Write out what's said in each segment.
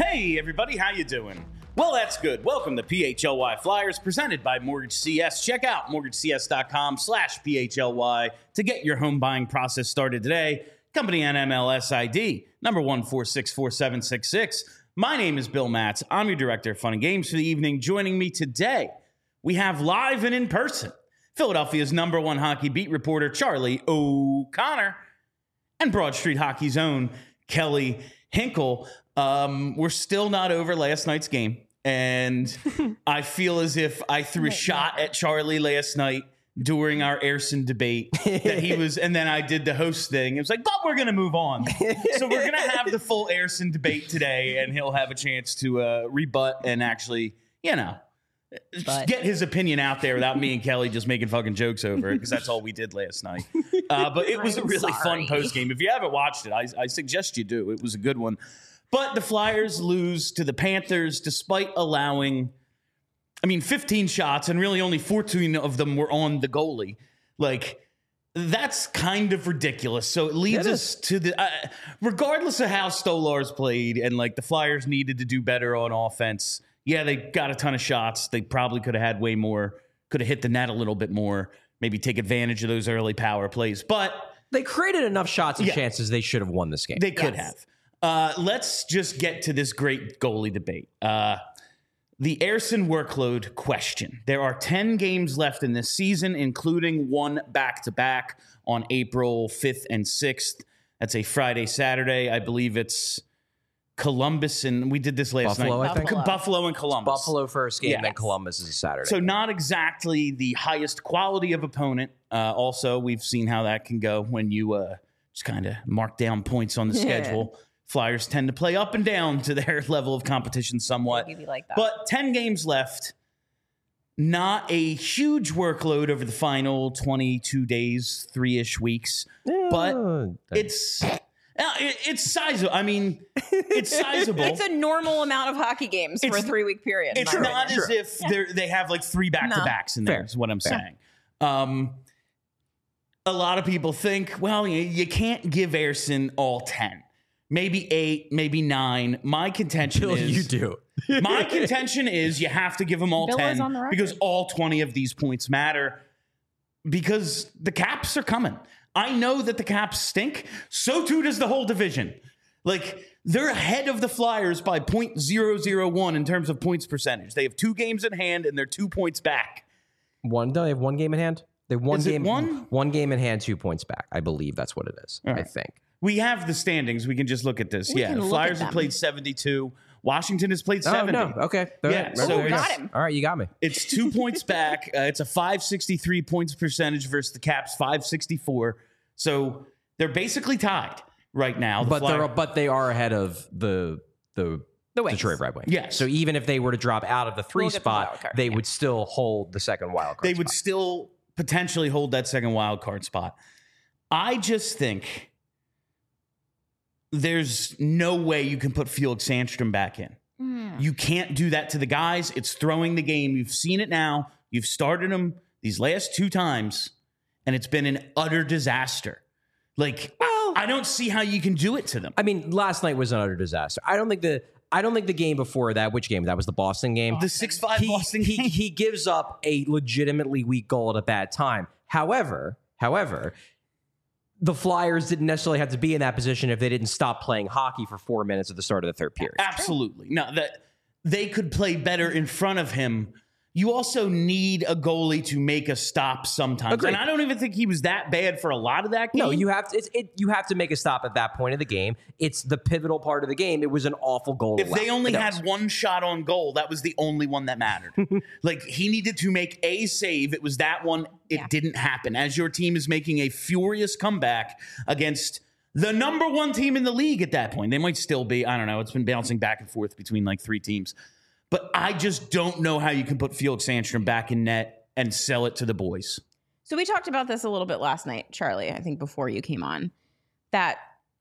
Hey, everybody, how you doing? Well, that's good. Welcome to PHLY Flyers, presented by Mortgage CS. Check out mortgagecs.com/PHLY to get your home buying process started today. Company NMLS ID, number 1464766. My name is Bill Matz. I'm your director of fun and games for the evening. Joining me today, we have live and in person, Philadelphia's number one hockey beat reporter, Charlie O'Connor, and Broad Street Hockey's own Kelly Hinkle. We're still not over last night's game, and I feel as if I threw a shot at Charlie last night during our Ayrson debate that he was, and then I did the host thing. It was like, but we're going to move on. So we're going to have the full Ayrson debate today, and he'll have a chance to rebut and actually, get his opinion out there without me and Kelly just making fucking jokes over it, because that's all we did last night. But it was a really fun post game. If you haven't watched it, I suggest you do. It was a good one. But the Flyers lose to the Panthers despite allowing, 15 shots, and really only 14 of them were on the goalie. Like, that's kind of ridiculous. So it leads us to the, regardless of how Stolarz played and the Flyers needed to do better on offense. Yeah, they got a ton of shots. They probably could have had way more, could have hit the net a little bit more, maybe take advantage of those early power plays. But they created enough shots and chances they should have won this game. They could have. Let's just get to this great goalie debate. The Ayrson workload question. There are 10 games left in this season, including one back-to-back on April 5th and 6th. That's a Friday, Saturday. I believe it's Columbus, and we did this last Buffalo, night. I think. Buffalo and Columbus. Buffalo first game, then Columbus is a Saturday. So not exactly the highest quality of opponent. Also, we've seen how that can go when you just kind of mark down points on the schedule. Flyers tend to play up and down to their level of competition somewhat. Like that. But 10 games left. Not a huge workload over the final 22 days, 3-ish weeks. But it's sizable. It's sizable. It's a normal amount of hockey games for a 3-week period. It's not as if they have 3 back-to-backs in there, is what I'm saying. A lot of people think, well, you can't give Ayrson all 10. Maybe 8, maybe 9. My contention is you do. My contention is you have to give them all Bill 10 because all 20 of these points matter, because the Caps are coming. I know that the Caps stink. So too does the whole division. They're ahead of the Flyers by .001 in terms of points percentage. They have 2 games in hand and they're 2 points back. They have 1 game in hand? They have one game in hand, 2 points back. I believe that's what it is. Right. I think. We have the standings. We can just look at this. The Flyers have played 72. Washington has played 70. Oh, no. Okay. So got him. All right, you got me. It's 2 points back. It's a .563 points percentage versus the Caps .564. So they're basically tied right now. But they are ahead of the Detroit Red Wings. Yes. So even if they were to drop out of the 3 spot, they would still hold the second wild card They spot. would still potentially hold that second wild card spot. I just think there's no way you can put Felix Sandstrom back in. You can't do that to the guys. It's throwing the game. You've seen it now. You've started them these last 2 times, and it's been an utter disaster. I don't see how you can do it to them. Last night was an utter disaster. I don't think the game before that, which game? That was the Boston game. The 6-5 Boston game. He gives up a legitimately weak goal at a bad time. However, the Flyers didn't necessarily have to be in that position if they didn't stop playing hockey for 4 minutes at the start of the third period. Absolutely. No, that they could play better in front of him. You also need a goalie to make a stop sometimes. Agreed. And I don't even think he was that bad for a lot of that game. No, you have to make a stop at that point of the game. It's the pivotal part of the game. It was an awful goal. If they only had one shot on goal, that was the only one that mattered. He needed to make a save. It was that one. It didn't happen. As your team is making a furious comeback against the number 1 team in the league at that point. They might still be. I don't know. It's been bouncing back and forth between 3 teams. But I just don't know how you can put Felix Sandstrom back in net and sell it to the boys. So we talked about this a little bit last night, Charlie, I think before you came on, that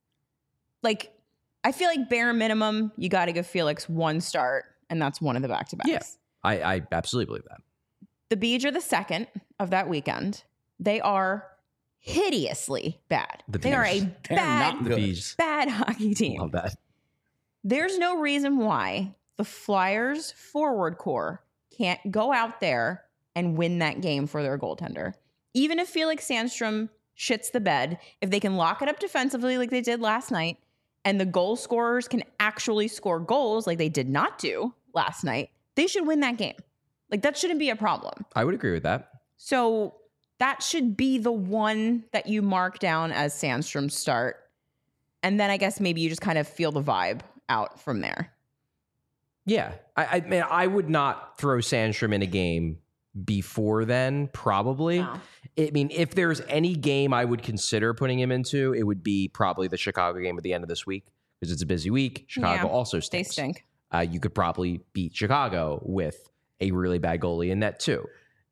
I feel like bare minimum, you got to give Felix 1 start, and that's one of the back-to-backs. Yeah, I absolutely believe that. The Bees are the second of that weekend. They are hideously bad. They are a bad hockey team. Love that. There's no reason why the Flyers forward core can't go out there and win that game for their goaltender. Even if Felix Sandstrom shits the bed, if they can lock it up defensively like they did last night, and the goal scorers can actually score goals like they did not do last night, they should win that game. Like, that shouldn't be a problem. I would agree with that. So that should be the one that you mark down as Sandstrom's start. And then I guess maybe you just kind of feel the vibe out from there. Yeah. I mean, I would not throw Sandstrom in a game before then, probably. No. I mean, if there's any game I would consider putting him into, it would be probably the Chicago game at the end of this week, because it's a busy week. Chicago also They stinks. stink. You could probably beat Chicago with a really bad goalie in net too.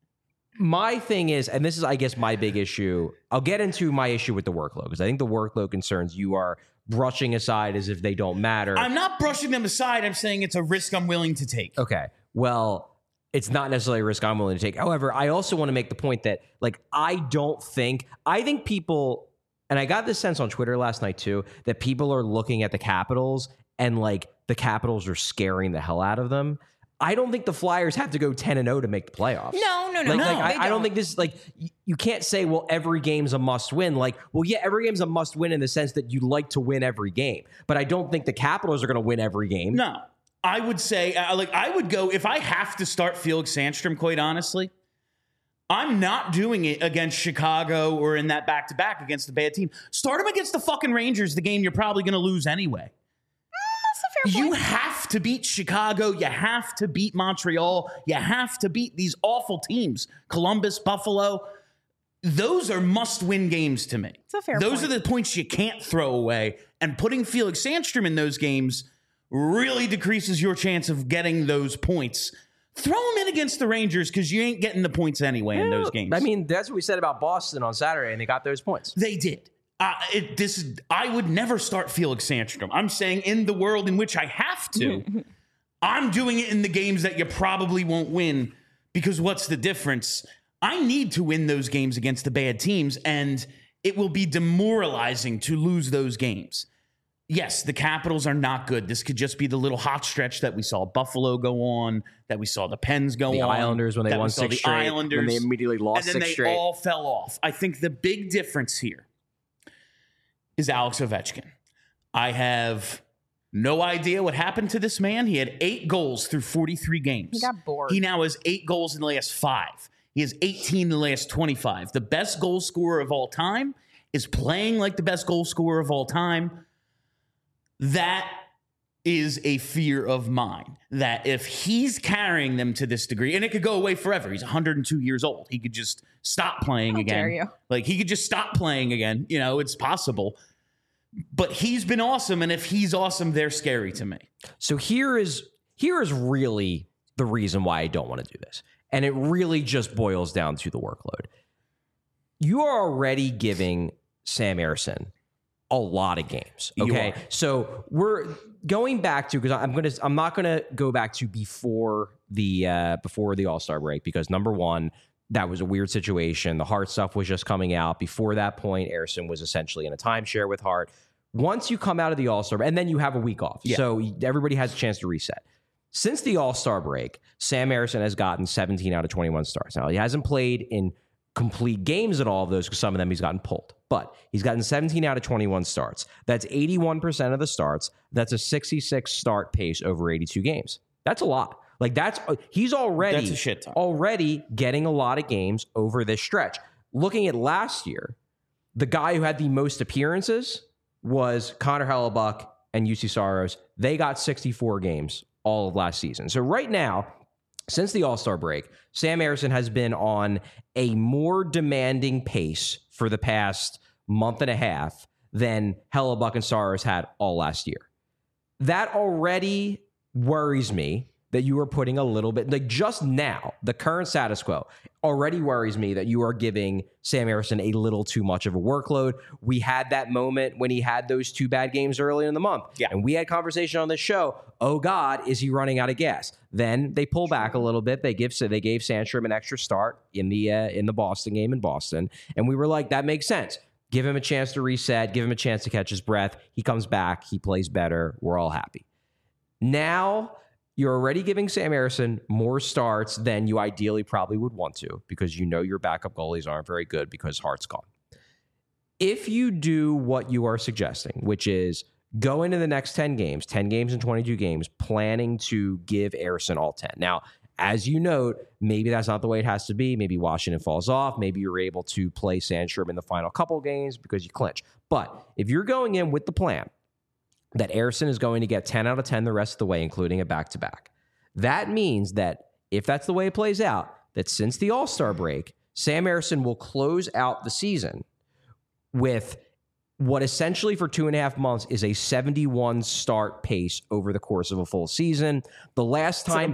My thing is, and this is, I guess, my big issue. I'll get into my issue with the workload, because I think the workload concerns you are brushing aside as if they don't matter. I'm not brushing them aside. I'm saying it's a risk I'm willing to take. Okay. Well, it's not necessarily a risk I'm willing to take. However, I also want to make the point that, like, I think people, and I got this sense on Twitter last night too, that people are looking at the Capitals and, like, the Capitals are scaring the hell out of them. I don't think the Flyers have to go 10-0 to make the playoffs. No. I don't think this is, like, you can't say, well, every game's a must win. Like, well, yeah, every game's a must win in the sense that you like to win every game. But I don't think the Capitals are going to win every game. No. I would say, I would go, if I have to start Felix Sandstrom, quite honestly, I'm not doing it against Chicago or in that back-to-back against the bad team. Start him against the fucking Rangers, the game you're probably going to lose anyway. That's a fair You point. have to beat Chicago. You have to beat Montreal. You have to beat these awful teams. Columbus, Buffalo. Those are must-win games to me. It's a fair Those point. are the points you can't throw away. And putting Felix Sandstrom in those games really decreases your chance of getting those points. Throw him in against the Rangers, because you ain't getting the points anyway in those games. I mean, that's what we said about Boston on Saturday, and they got those points. They did. I would never start Felix Sandstrom. I'm saying in the world in which I have to, I'm doing it in the games that you probably won't win, because what's the difference? I need to win those games against the bad teams, and it will be demoralizing to lose those games. Yes, the Capitals are not good. This could just be the little hot stretch that we saw Buffalo go on, that we saw the Pens go on. The Islanders, when they that we won saw 6 the straight, Islanders, when they immediately lost and then 6 they straight. all fell off. I think the big difference here is Alex Ovechkin. I have no idea what happened to this man. He had 8 goals through 43 games. He got bored. He now has 8 goals in the last 5. He has 18 in the last 25. The best goal scorer of all time is playing like the best goal scorer of all time. That is a fear of mine, that if he's carrying them to this degree, and it could go away forever. He's 102 years old. He could just stop playing How again. dare you. Like, he could just stop playing again. You know, it's possible. But he's been awesome, and if he's awesome, they're scary to me. So here is really the reason why I don't want to do this. And it really just boils down to the workload. You are already giving Sam Ersson a lot of games. Okay. So we're going back to, because I'm not gonna go back to before the All-Star break, because number one, that was a weird situation. The Hart stuff was just coming out. Before that point, Ersson was essentially in a timeshare with Hart. Once you come out of the All-Star, and then you have a week off. Yeah. So everybody has a chance to reset. Since the All-Star break, Sam Ersson has gotten 17 out of 21 starts. Now, he hasn't played in complete games at all of those, because some of them he's gotten pulled. But he's gotten 17 out of 21 starts. That's 81% of the starts. That's a 66 start pace over 82 games. That's a lot. Like, he's That's a shit ton. already getting a lot of games over this stretch. Looking at last year, the guy who had the most appearances was Connor Hellebuck and UC Saros. They got 64 games all of last season. So right now, since the All-Star break, Sam Ersson has been on a more demanding pace for the past month and a half than Hellebuck and Saros had all last year. That already worries me, that you are putting a little bit, like, just now, the current status quo already worries me that you are giving Sam Ersson a little too much of a workload. We had that moment when he had those 2 bad games early in the month. Yeah. And we had conversation on this show. Oh God, is he running out of gas? Then they pull back a little bit. They gave Sandstrom an extra start in the Boston game in Boston. And we were like, that makes sense. Give him a chance to reset, give him a chance to catch his breath. He comes back, he plays better. We're all happy. Now you're already giving Sam Harrison more starts than you ideally probably would want to, because you know your backup goalies aren't very good because Hart's gone. If you do what you are suggesting, which is go into the next 10 games and 22 games, planning to give Harrison all 10. Now, as you note, maybe that's not the way it has to be. Maybe Washington falls off. Maybe you're able to play Sandstrom in the final couple games because you clinch. But if you're going in with the plan that Harrison is going to get 10 out of 10 the rest of the way, including a back-to-back, that means that if that's the way it plays out, that since the All-Star break, Sam Harrison will close out the season with what essentially for 2.5 months is a 71 start pace over the course of a full season. The last time a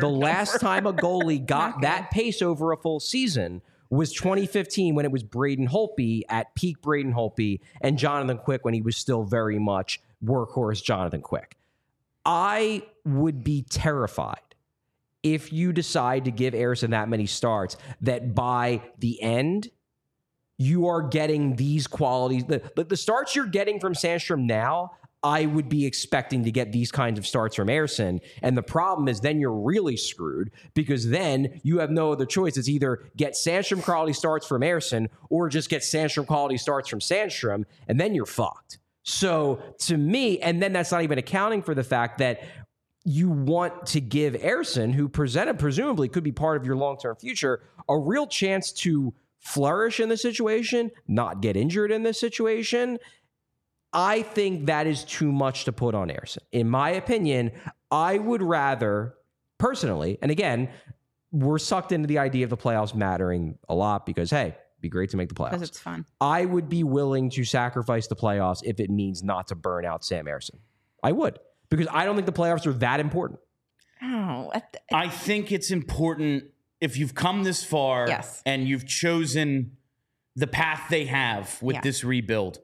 goalie got that pace over a full season was 2015 when it was Braden Holtby at peak Braden Holtby and Jonathan Quick when he was still very much workhorse Jonathan Quick. I would be terrified if you decide to give Harrison that many starts that by the end you are getting these qualities. The starts you're getting from Sandstrom now, I would be expecting to get these kinds of starts from Harrison. And the problem is then you're really screwed because then you have no other choice. It's either get Sandstrom quality starts from Harrison or just get Sandstrom quality starts from Sandstrom, and then you're fucked. So to me, and then that's not even accounting for the fact that you want to give Harrison, who presumably could be part of your long-term future, a real chance to flourish in the situation, not get injured in this situation. I think that is too much to put on Harrison. In my opinion, I would rather, personally, and again, we're sucked into the idea of the playoffs mattering a lot because, hey, it'd be great to make the playoffs. Because it's fun. I would be willing to sacrifice the playoffs if it means not to burn out Sam Harrison. I would, because I don't think the playoffs are that important. Oh, I think it's important if you've come this far and you've chosen the path they have with this rebuild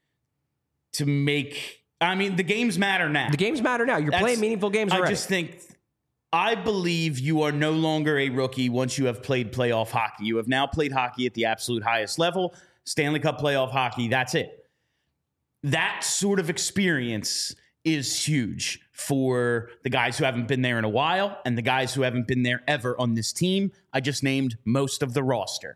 to make, I mean, the games matter now. The games matter now. You're playing meaningful games already. I believe you are no longer a rookie once you have played playoff hockey. You have now played hockey at the absolute highest level, Stanley Cup playoff hockey. That's it. That sort of experience is huge for the guys who haven't been there in a while and the guys who haven't been there ever on this team. I just named most of the roster.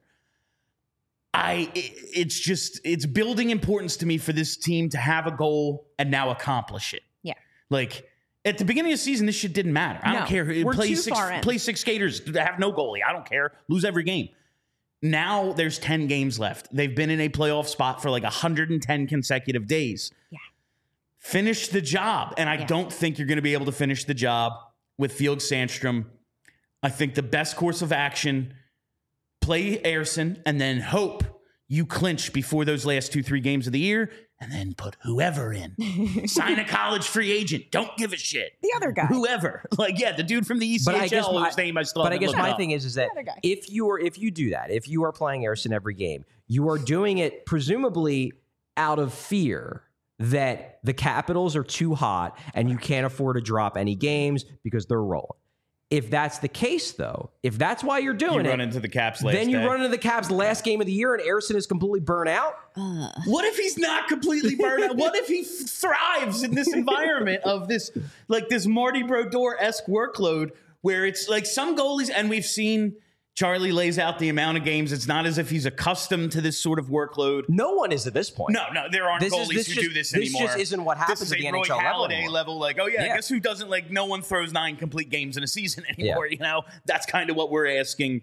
It's building importance to me for this team to have a goal and now accomplish it. Yeah. Like at the beginning of the season, this shit didn't matter. I don't care. Play six skaters, have no goalie. I don't care. Lose every game. Now there's 10 games left. They've been in a playoff spot for like 110 consecutive days. Yeah. Finish the job. And I don't think you're going to be able to finish the job with Felix Sandstrom. I think the best course of action, play Harrison and then hope you clinch before those last 2-3 games of the year and then put whoever in. Sign a college free agent. Don't give a shit. The other guy. Whoever. Like, the dude from the ECHL whose name I still haven't looked up. But I guess my thing is that if you do that, if you are playing Harrison every game, you are doing it presumably out of fear that the Capitals are too hot and you can't afford to drop any games because they're rolling. If that's the case, though, if that's why you're doing you run into the Caps last then you day. run into the Caps last game of the year and Harrison is completely burnt out. What if he's not completely burnt out? What if he thrives in this environment of this Marty Brodeur-esque workload where it's like some goalies, and we've seen Charlie lays out the amount of games. It's not as if he's accustomed to this sort of workload. No one is at this point. No, there aren't goalies who do this anymore. This just isn't what happens at the NHL level. This is a Roy Halladay level. Like, guess who doesn't, like, no one throws 9 complete games in a season anymore. You know, that's kind of what we're asking.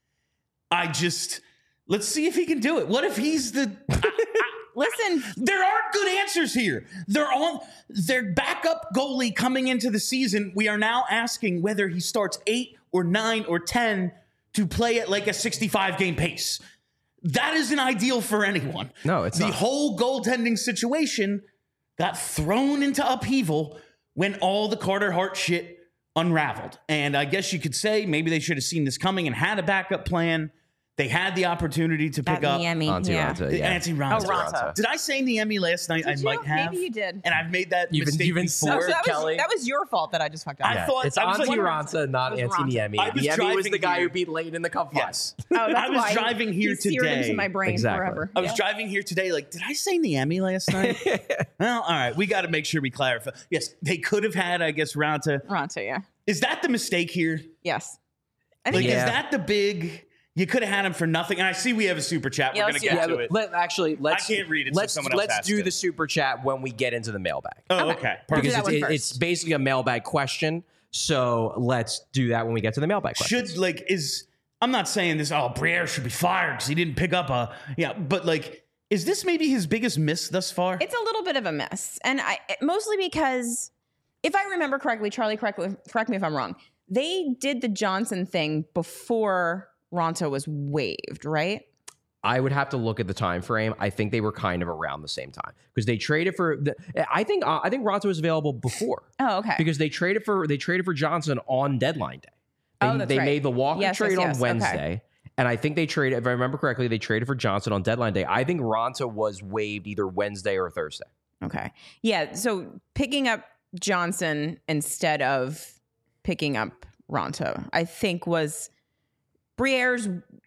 Let's see if he can do it. What if he's the... Listen, there aren't good answers here. They're on their backup goalie coming into the season. We are now asking whether he starts 8 or 9 or 10 to play at like a 65-game pace. That isn't ideal for anyone. No, it's not. The whole goaltending situation got thrown into upheaval when all the Carter Hart shit unraveled. And I guess you could say maybe they should have seen this coming and had a backup plan. They had the opportunity to pick up Niemi, Antti yeah. Raanta, yeah. Antti Raanta. Oh, Raanta. Did I say Niemi last night? I Did might you? have. Maybe you did. And I've made that You've been- mistake you've been before. So that Kelly. was your fault that I just fucked up. I thought It's I was Antti like, Raanta, not It was Antti Raanta. Niemi. I was Niemi was driving the guy here. who beat Leighton in the cup final. yes. Oh, that's I was why driving here you seared today. into my brain Exactly. forever. I was driving here today. Like, did I say Niemi last night? Well, all right. We got to make sure we clarify. Yes, they could have had, I guess, Raanta. Raanta, yeah. Is that the mistake here? Yes. I Like, think Yeah. is that the big? You could have had him for nothing. And I see we have a super chat. Yeah, We're let's going to do get that. to it. Let's can't read it, so Let's someone else has do to. the super chat when we get into the mailbag. Oh, Okay. okay. We'll do Perfect. that one first. It's basically a mailbag question. So let's do that when we get to the mailbag question. Should I'm not saying this. Oh, Briere should be fired because he didn't pick up but like, is this maybe his biggest miss thus far? it's a little bit of a miss. And mostly because if I remember correctly, Charlie, correct me if I'm wrong. They did the Johnson thing before Raanta was waived, right? I would have to look at the time frame. I think they were kind of around the same time because they traded for. I think Raanta was available before Oh, okay. because they traded for Johnson on deadline day. Oh, that's they right. made the Walker Yes, trade yes, on yes. Wednesday. Okay. And I think they traded, if I remember correctly, they traded for Johnson on deadline day. I think Raanta was waived either Wednesday or Thursday. Okay. Yeah. So picking up Johnson instead of picking up Raanta, I think was Briere's.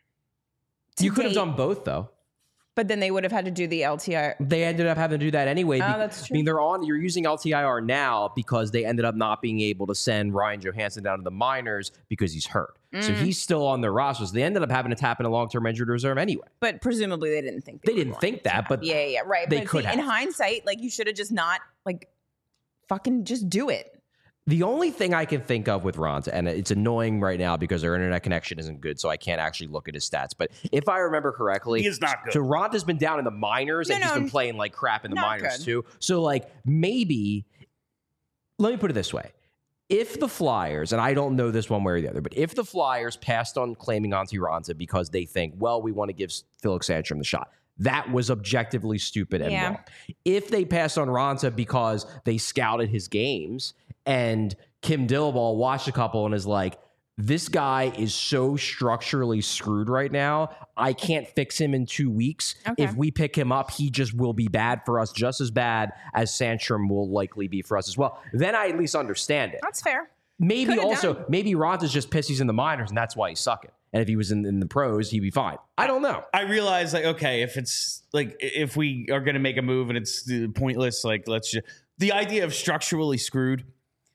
You could have date, done both, though. but then they would have had to do the LTI. They ended up having to do that anyway. Oh, that's true. I mean, you're using LTIR now because they ended up not being able to send Ryan Johansson down to the minors because he's hurt. So he's still on their rosters. They ended up having to tap in a long-term injured reserve anyway. But presumably they didn't think They were didn't going think to that, have- but yeah, right. they But could in have. hindsight, like you should have just not like fucking just do it. The only thing I can think of with Raanta, and it's annoying right now because their internet connection isn't good, so I can't actually look at his stats. But if I remember correctly, He is not good. So Ronta's been down in the minors, and No, he's no, been playing like crap in the not minors good. too. So like maybe, let me put it this way: if the Flyers, and I don't know this one way or the other, but if the Flyers passed on claiming Antti Raanta because they think, well, we want to give Felix Sandstrom the shot. That was objectively stupid and Yeah. wrong. If they passed on Raanta because they scouted his games and Kim Dillaball watched a couple and is like, this guy is so structurally screwed right now. I can't fix him in 2 weeks. Okay. If we pick him up, he just will be bad for us, just as bad as Sandstrom will likely be for us as well. Then I at least understand it. That's fair. Maybe Could've also, done. maybe Ronta's just pissed he's in the minors and that's why he's sucking. And if he was in the pros, he'd be fine. I don't know. I realize, like, okay, if it's like if we are going to make a move and it's pointless, like, let's just the idea of structurally screwed.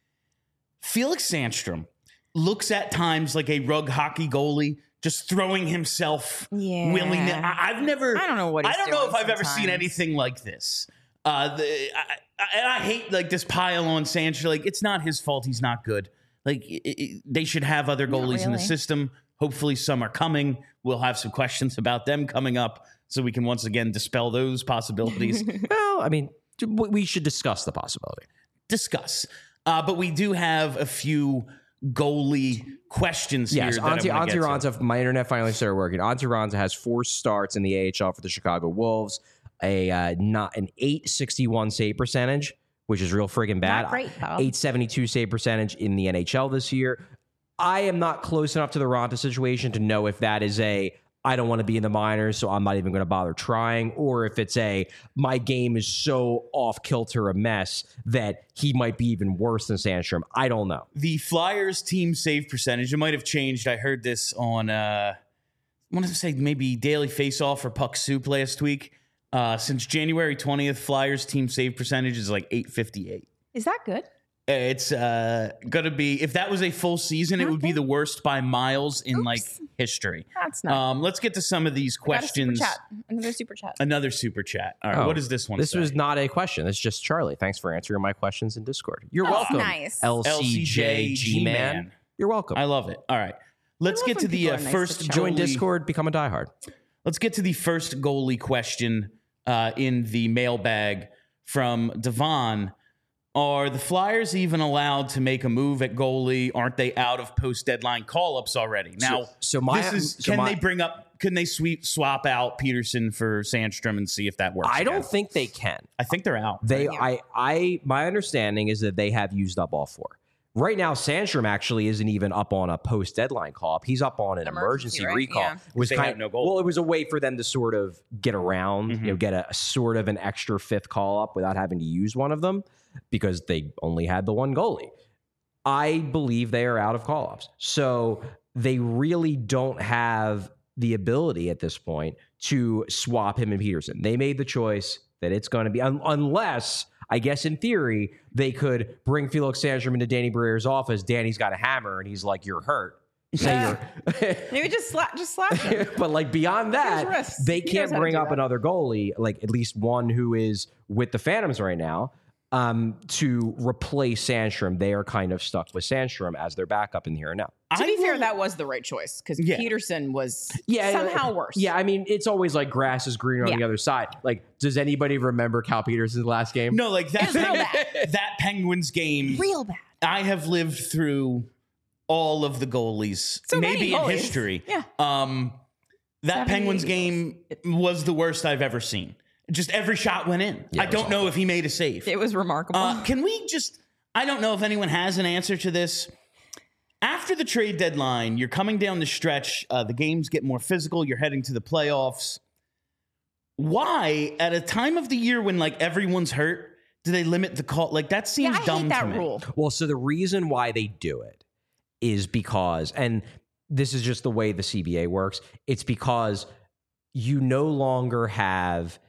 Felix Sandstrom looks at times like a rug hockey goalie, just throwing himself Yeah. willy-nilly. I've never. I don't know what he's I don't know doing if I've ever seen sometimes. anything like this. And I hate like this pile on Sandstrom. Like, it's not his fault. He's not good. Like, they should have other Not goalies in the really. system. Hopefully, some are coming. We'll have some questions about them coming up, so we can once again dispel those possibilities. Well, I mean, we should discuss the possibility. Discuss. But we do have a few goalie questions Yes, here. That Antti I wanna get to. Raanta, my internet finally started working. Antti Raanta has 4 starts in the AHL for the Chicago Wolves, not an .861 save percentage, which is real friggin' bad. Not great, though. .872 save percentage in the NHL this year. I am not close enough to the Raanta situation to know if that is I don't want to be in the minors, so I'm not even going to bother trying, or if it's my game is so off kilter a mess that he might be even worse than Sandstrom. I don't know. The Flyers team save percentage, it might have changed. I heard this on, I want to say maybe Daily Faceoff or Puck Soup last week. Since January 20th, Flyers team save percentage is like .858. Is that good? It's going to be, if that was a full season, it would be Okay. the worst by miles in like Oops. history. That's not. Let's get to some of these Got a super questions. chat. Another super chat. Another super chat. All right, Oh, what is this one? This say? was not a question. It's just Charlie. Thanks for answering my questions in Discord. You're Oh, welcome. nice. LCJ G-Man. You're welcome. I love it. All right. Let's love get when to the people are nice to first Charlie. Join goalie- Discord, become a diehard. Let's get to the first goalie question in the mailbag from Devon. Are the Flyers even allowed to make a move at goalie? Aren't they out of post-deadline call-ups already? Now, can they swap out Peterson for Sandstrom and see if that works? I don't again? think they can. I think they're out. My understanding is that they have used up all 4. Right now, Sandstrom actually isn't even up on a post-deadline call-up. He's up on an emergency right? recall. Yeah. It was They have no goal. Well, it was a way for them to sort of get around, get a sort of an extra fifth call-up without having to use one of them because they only had the one goalie. I believe they are out of call-ups. So they really don't have the ability at this point to swap him and Peterson. They made the choice that it's going to be, unless, I guess in theory, they could bring Felix Sandstrom into Danny Briere's office. Danny's got a hammer, and he's like, "You're hurt." Maybe just slap him. But like beyond that, wrists. they He can't knows how to bring do up that. another goalie, like at least one who is with the Phantoms right now, to replace Sandstrom. They are kind of stuck with Sandstrom as their backup in the here and now. To be fair, that was the right choice because Peterson was somehow worse. Yeah, I mean, it's always like grass is greener on the other side. Like, does anybody remember Cal Peterson's last game? No, like that. It was real bad. That Penguins game, Real bad. I have lived through all of the goalies, So maybe many in goalies. history. Yeah. That 70, Penguins game was the worst I've ever seen. Just every shot went in. Yeah, I don't know if he made a save. It was remarkable. Can we just, I don't know if anyone has an answer to this. After the trade deadline, you're coming down the stretch. The games get more physical. You're heading to the playoffs. Why, at a time of the year when like everyone's hurt, do they limit the call? Like that seems I dumb hate that to me. rule. Well, so the reason why they do it is because, and this is just the way the CBA works, it's because you no longer have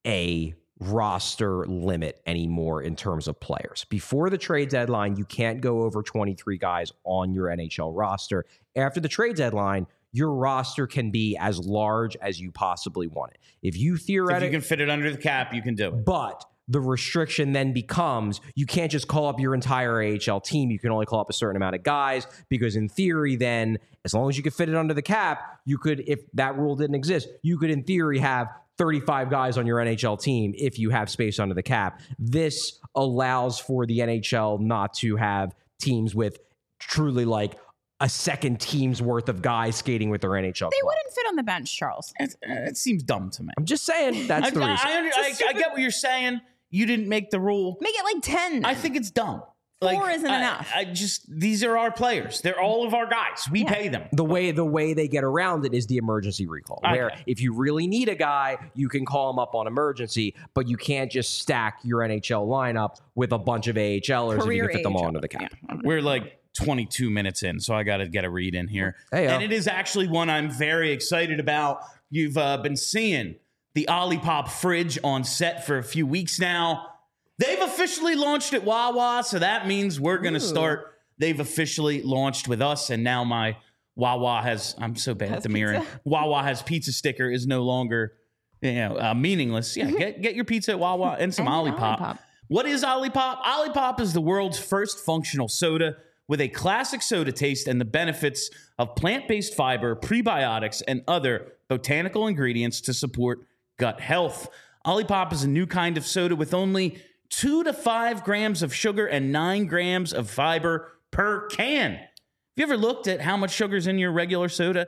a roster limit anymore in terms of players. Before the trade deadline, you can't go over 23 guys on your NHL roster. After the trade deadline, your roster can be as large as you possibly want it. If you If theoretically you can fit it under the cap, you can do it. but the restriction then becomes you can't just call up your entire AHL team. You can only call up a certain amount of guys because in theory then, as long as you could fit it under the cap, you could, if that rule didn't exist, you could in theory have 35 guys on your NHL team if you have space under the cap. This allows for the NHL not to have teams with truly like a second team's worth of guys skating with their NHL They club. wouldn't fit on the bench, Charles. It seems dumb to me. I'm just saying that's the reason. I get what you're saying. You didn't make the rule. Make it like 10. I think it's dumb. Four isn't enough. These are our players. They're all of our guys. We pay them. The way they get around it is the emergency recall, where Okay. if you really need a guy, you can call him up on emergency, but you can't just stack your NHL lineup with a bunch of AHLers if you Career can fit them all AHL. under the cap. We're like 22 minutes in, so I got to get a read in here. Hey-o. And it is actually one I'm very excited about. You've been seeing the Olipop fridge on set for a few weeks now. They've officially launched at Wawa, so that means we're going to start. They've officially launched with us, and now my Wawa has, I'm so bad at the mirror. pizza. Wawa has pizza sticker is no longer meaningless. Yeah, get your pizza at Wawa and some And Olipop. Olipop. What is Olipop? Olipop is the world's first functional soda with a classic soda taste and the benefits of plant-based fiber, prebiotics, and other botanical ingredients to support gut health. Olipop is a new kind of soda with only 2 to 5 grams of sugar and 9 grams of fiber per can. Have you ever looked at how much sugar's in your regular soda?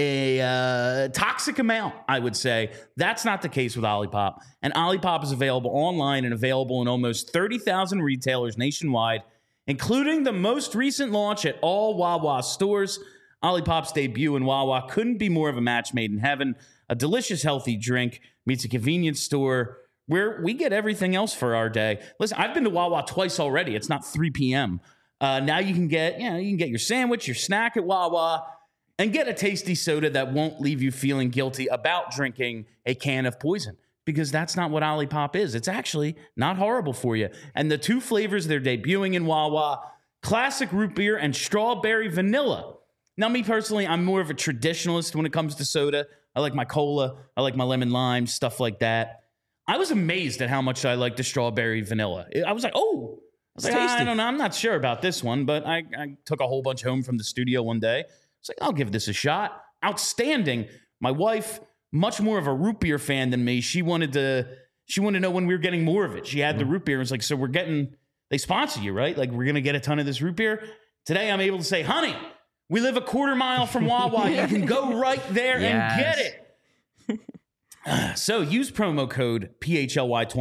A toxic amount, I would say. That's not the case with Olipop. And Olipop is available online and available in almost 30,000 retailers nationwide, including the most recent launch at all Wawa stores. Olipop's debut in Wawa couldn't be more of a match made in heaven. A delicious, healthy drink meets a convenience store where we get everything else for our day. Listen, I've been to Wawa twice already. It's not 3 p.m. Now you can get your sandwich, your snack at Wawa, and get a tasty soda that won't leave you feeling guilty about drinking a can of poison, because that's not what Olipop is. It's actually not horrible for you. And the 2 flavors they're debuting in Wawa, classic root beer and strawberry vanilla. Now, me personally, I'm more of a traditionalist when it comes to soda. I like my cola. I like my lemon lime, stuff like that. I was amazed at how much I like the strawberry vanilla. I was like, I don't know. I'm not sure about this one, but I took a whole bunch home from the studio one day. It's like, I'll give this a shot. Outstanding. My wife, much more of a root beer fan than me. She wanted to know when we were getting more of it. She had the root beer. It's like, so they sponsor you, right? Like, we're going to get a ton of this root beer. Today, I'm able to say, honey, we live a quarter mile from Wawa. You can go right there and get it. So use promo code PHLY20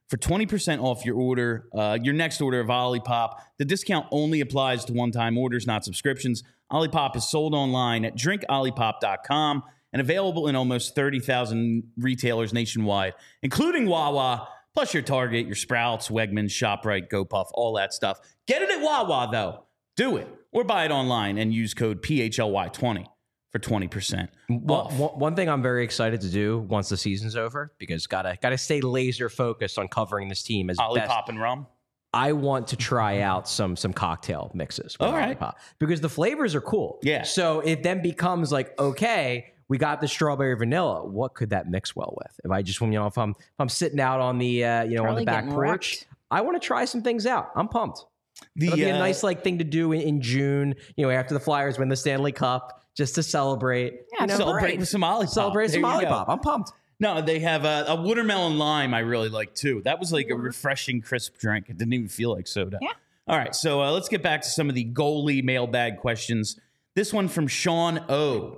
for 20% off your order, your next order of Olipop. The discount only applies to one-time orders, not subscriptions. Olipop is sold online at drinkolipop.com and available in almost 30,000 retailers nationwide, including Wawa, plus your Target, your Sprouts, Wegmans, ShopRite, GoPuff, all that stuff. Get it at Wawa, though. Do it. Or buy it online and use code PHLY20 for 20% off. One thing I'm very excited to do once the season's over, because gotta stay laser focused on covering this team as best. Olipop and rum? I want to try out some cocktail mixes with All right. Olipop, because the flavors are cool. Yeah. So it then becomes like, okay, we got the strawberry vanilla. What could that mix well with? If I just, if I'm sitting out on the on the Probably back getting porch, wrecked. I want to try some things out. I'm pumped. It'll be a nice thing to do in June. After the Flyers win the Stanley Cup, just to celebrate. Yeah, Celebrate with some Olipop. Celebrate some There you go. Olipop. I'm pumped. No, they have a watermelon lime I really like, too. That was like a refreshing, crisp drink. It didn't even feel like soda. Yeah. All right, so let's get back to some of the goalie mailbag questions. This one from Sean O.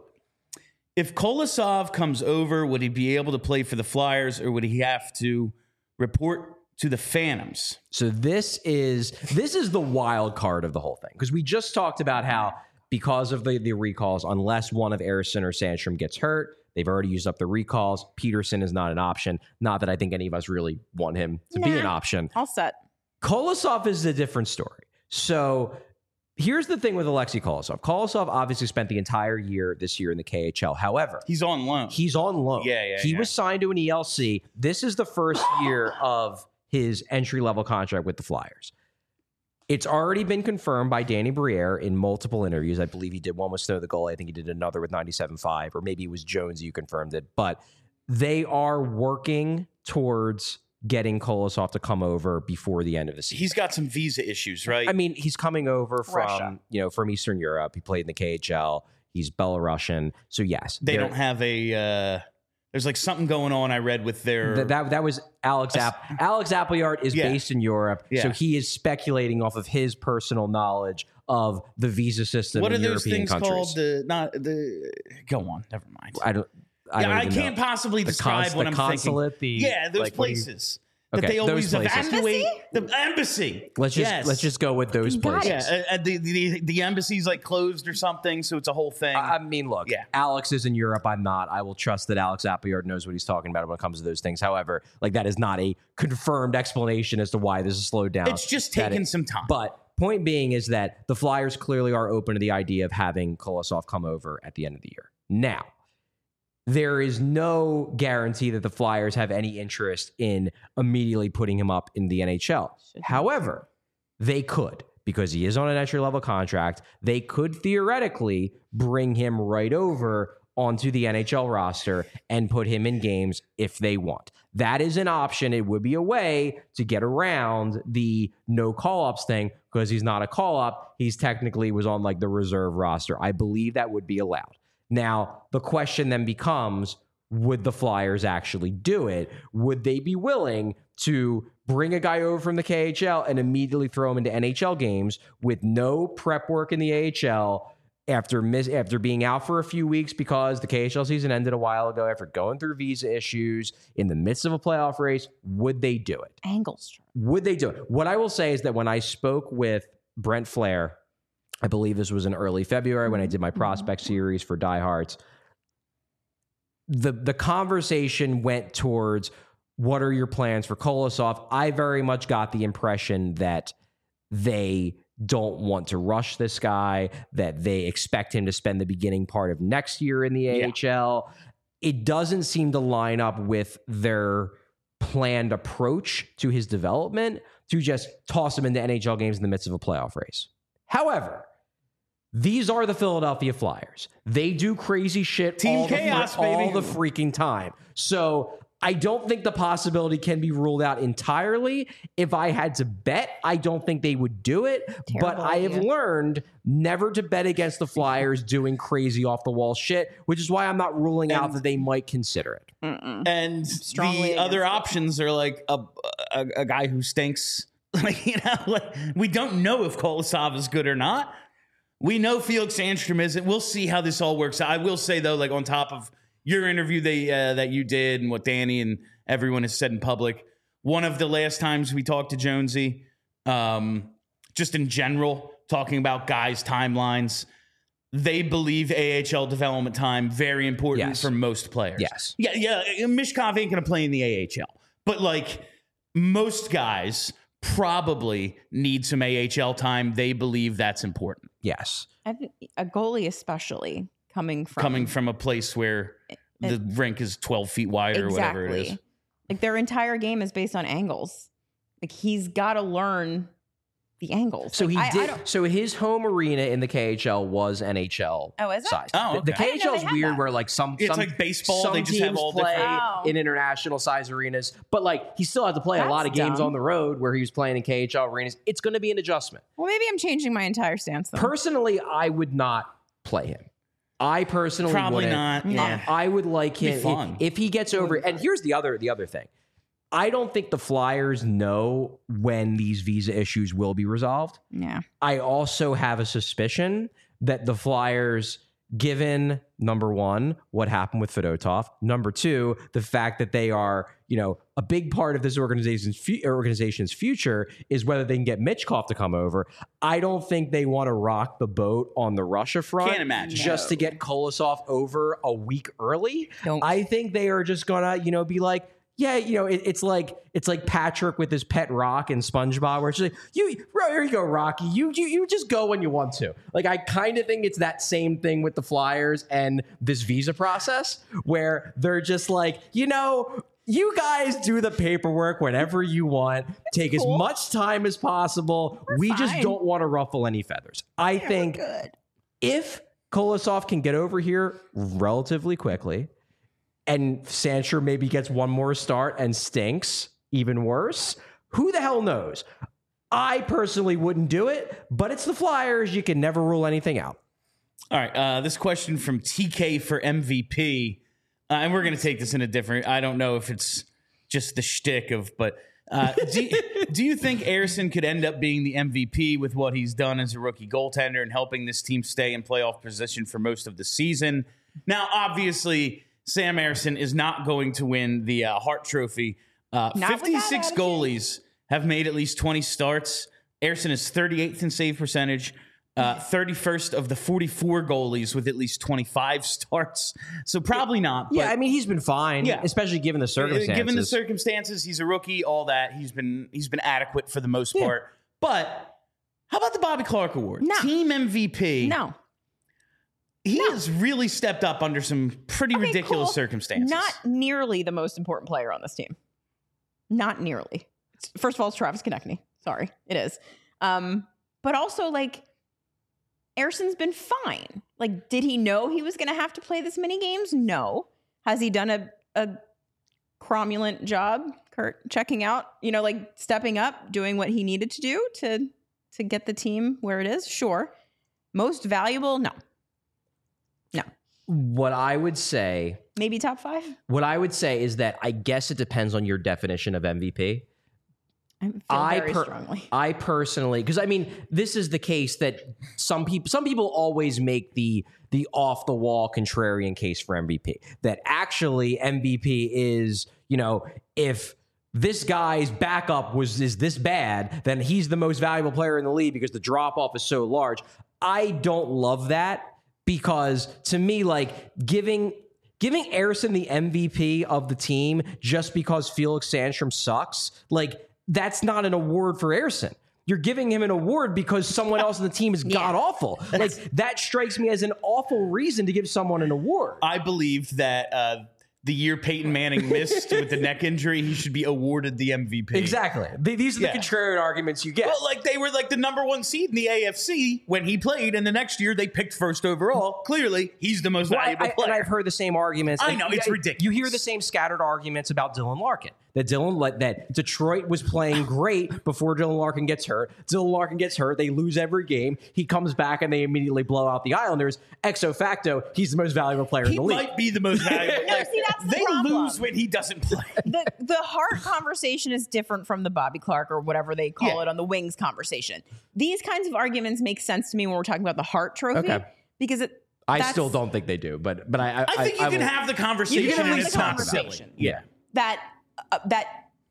If Kolosov comes over, would he be able to play for the Flyers, or would he have to report to the Phantoms? So this is the wild card of the whole thing, because we just talked about how because of the recalls, unless one of Ersson or Sandstrom gets hurt, they've already used up the recalls. Peterson is not an option. Not that I think any of us really want him to be an option. All set. Kolosov is a different story. So here's the thing with Alexei Kolosov. Kolosov obviously spent the entire year this year in the KHL. However, He's on loan. he's on loan. He was signed to an ELC. This is the first year of his entry-level contract with the Flyers. It's already been confirmed by Danny Briere in multiple interviews. I believe he did one with Snow the Goalie. I think he did another with 97.5, or maybe it was Jones who confirmed it. But they are working towards getting Kolosov to come over before the end of the season. He's got some visa issues, right? I mean, he's coming over Russia. from Eastern Europe. He played in the KHL. He's Belarusian. So yes, they don't have a... there's like something going on I read with their... That was Alex Alex Appleyard is based in Europe, so he is speculating off of his personal knowledge of the visa system What in are those European things countries. called? Go on. Never mind. I I can't possibly describe what I'm consulate, thinking. Those like, places that Okay, they always those places. evacuate. The embassy. Let's just go with those Got it. places. The embassy's like closed or something, so it's a whole thing. I mean, look, Alex is in Europe. I'm not. I will trust that Alex Appleyard knows what he's talking about when it comes to those things. However, like that is not a confirmed explanation as to why this is slowed down. It's just taking some time. But point being is that the Flyers clearly are open to the idea of having Kolosov come over at the end of the year. Now, there is no guarantee that the Flyers have any interest in immediately putting him up in the NHL. However, they could, because he is on an entry-level contract. They could theoretically bring him right over onto the NHL roster and put him in games if they want. That is an option. It would be a way to get around the no call-ups thing, because he's not a call-up. He's technically was on like the reserve roster. I believe that would be allowed. Now, the question then becomes, would the Flyers actually do it? Would they be willing to bring a guy over from the KHL and immediately throw him into NHL games with no prep work in the AHL after being out for a few weeks because the KHL season ended a while ago, after going through visa issues in the midst of a playoff race? Would they do it? Angles. Would they do it? What I will say is that when I spoke with Brent Flair, I believe this was in early February when I did my prospect series for Diehards, the conversation went towards, what are your plans for Kolosov? I very much got the impression that they don't want to rush this guy, that they expect him to spend the beginning part of next year in the AHL. It doesn't seem to line up with their planned approach to his development to just toss him into NHL games in the midst of a playoff race. However, these are the Philadelphia Flyers. They do crazy shit Team all chaos, the baby. freaking time. So I don't think the possibility can be ruled out entirely. If I had to bet, I don't think they would do it. But I have learned never to bet against the Flyers doing crazy off-the-wall shit, which is why I'm not ruling out that they might consider it. And Strongly the other against it. options are like a guy who stinks. We don't know if Kolosov is good or not. We know Felix Sandstrom isn't. We'll see how this all works out. I will say, though, like on top of your interview that you did and what Danny and everyone has said in public, one of the last times we talked to Jonesy, just in general, talking about guys' timelines. They believe AHL development time very important for most players. Yes. Yeah. Mishkov ain't going to play in the AHL. But, like, most guys probably need some AHL time. They believe that's important. Yes. I think a goalie especially coming from a place where the rink is 12 feet wide or whatever it is. Like, their entire game is based on angles. Like, he's got to learn the angles. So like, he did. So his home arena in the KHL was NHL size. Oh, The okay. KHL is weird, where like It's like baseball. Some They just teams have all play different. in international size arenas, but like he still had to play a lot of That's games dumb. on the road where he was playing in KHL arenas. It's going to be an adjustment. Well, maybe I'm changing my entire stance then. Personally, I would not play him. I personally Probably wouldn't. not. Yeah. I would like It'd him be fun. if he gets over. And here's the other thing. I don't think the Flyers know when these visa issues will be resolved. Yeah. I also have a suspicion that the Flyers, given number one, what happened with Fedotov, number two, the fact that they are, a big part of this organization's future is whether they can get Michkov to come over. I don't think they want to rock the boat on the Russia front. Can't imagine. Just to get Kolosov over a week early. Don't. I think they are just gonna, be like, yeah, it's like Patrick with his pet rock in SpongeBob, where it's like, here you go, Rocky. You just go when you want to. Like, I kind of think it's that same thing with the Flyers and this visa process, where they're just like, you guys do the paperwork whenever you want. Take as much time as possible. We just fine. don't want to ruffle any feathers. I think if Kolosov can get over here relatively quickly, and Sandstrom maybe gets one more start and stinks even worse, who the hell knows? I personally wouldn't do it, but it's the Flyers. You can never rule anything out. All right. This question from TK for MVP. And we're going to take this in a different, I don't know if it's just the shtick but do you think Ersson could end up being the MVP with what he's done as a rookie goaltender and helping this team stay in playoff position for most of the season? Now, obviously, Sam Ersson is not going to win the Hart Trophy. 56 goalies have made at least 20 starts. Ersson is 38th in save percentage, 31st of the 44 goalies with at least 25 starts. So probably not. Yeah, I mean, he's been fine, especially given the circumstances. Given the circumstances, he's a rookie, all that. He's been adequate for the most part. But how about the Bobby Clark Award? No. Team MVP. No. He has really stepped up under some pretty ridiculous circumstances. Not nearly the most important player on this team. Not nearly. First of all, it's Travis Konechny. Sorry, it is. But also, like, Ersson's been fine. Like, did he know he was going to have to play this many games? No. Has he done a cromulent job, Kurt, checking out, like stepping up, doing what he needed to do to get the team where it is? Sure. Most valuable? No. What I would say... Maybe top 5? What I would say is that I guess it depends on your definition of MVP. I feel very strongly. I personally, because I mean, this is the case that some people always make the off the wall contrarian case for MVP. That actually MVP is, if this guy's backup is this bad, then he's the most valuable player in the league because the drop off is so large. I don't love that, because to me, like, giving Ersson the MVP of the team just because Felix Sandstrom sucks, like, that's not an award for Ersson. You're giving him an award because someone else on the team is god awful. Like, that strikes me as an awful reason to give someone an award. I believe that the year Peyton Manning missed with the neck injury, he should be awarded the MVP. Exactly. These are the contrarian arguments you get. Well, like, they were like the number 1 seed in the AFC when he played, and the next year they picked first overall. Clearly, he's the most valuable player. And I've heard the same arguments. I know, it's ridiculous. You hear the same scattered arguments about Dylan Larkin. That Detroit was playing great before Dylan Larkin gets hurt. Dylan Larkin gets hurt. They lose every game. He comes back and they immediately blow out the Islanders. Ex facto, he's the most valuable player in the league. He might be the most valuable player. See, that's the they problem. lose when he doesn't play. The Hart conversation is different from the Bobby Clark or whatever they call it on the Wings conversation. These kinds of arguments make sense to me when we're talking about the Hart Trophy because I still don't think they do, but I think you can have the conversation. You can and have it's the not conversation. silly. Yeah. that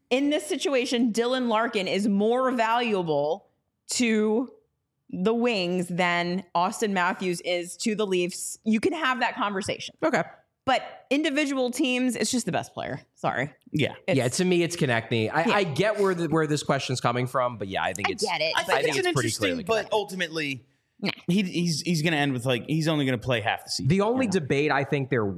in this situation, Dylan Larkin is more valuable to the Wings than Austin Matthews is to the Leafs. You can have that conversation. Okay. But individual teams, it's just the best player. Sorry. Yeah. To me, it's Konechny. I get where this question's coming from, but I think I get it. I but think it's an pretty interesting, clearly but ultimately, he's going to end with he's only going to play half the season. The only debate I think there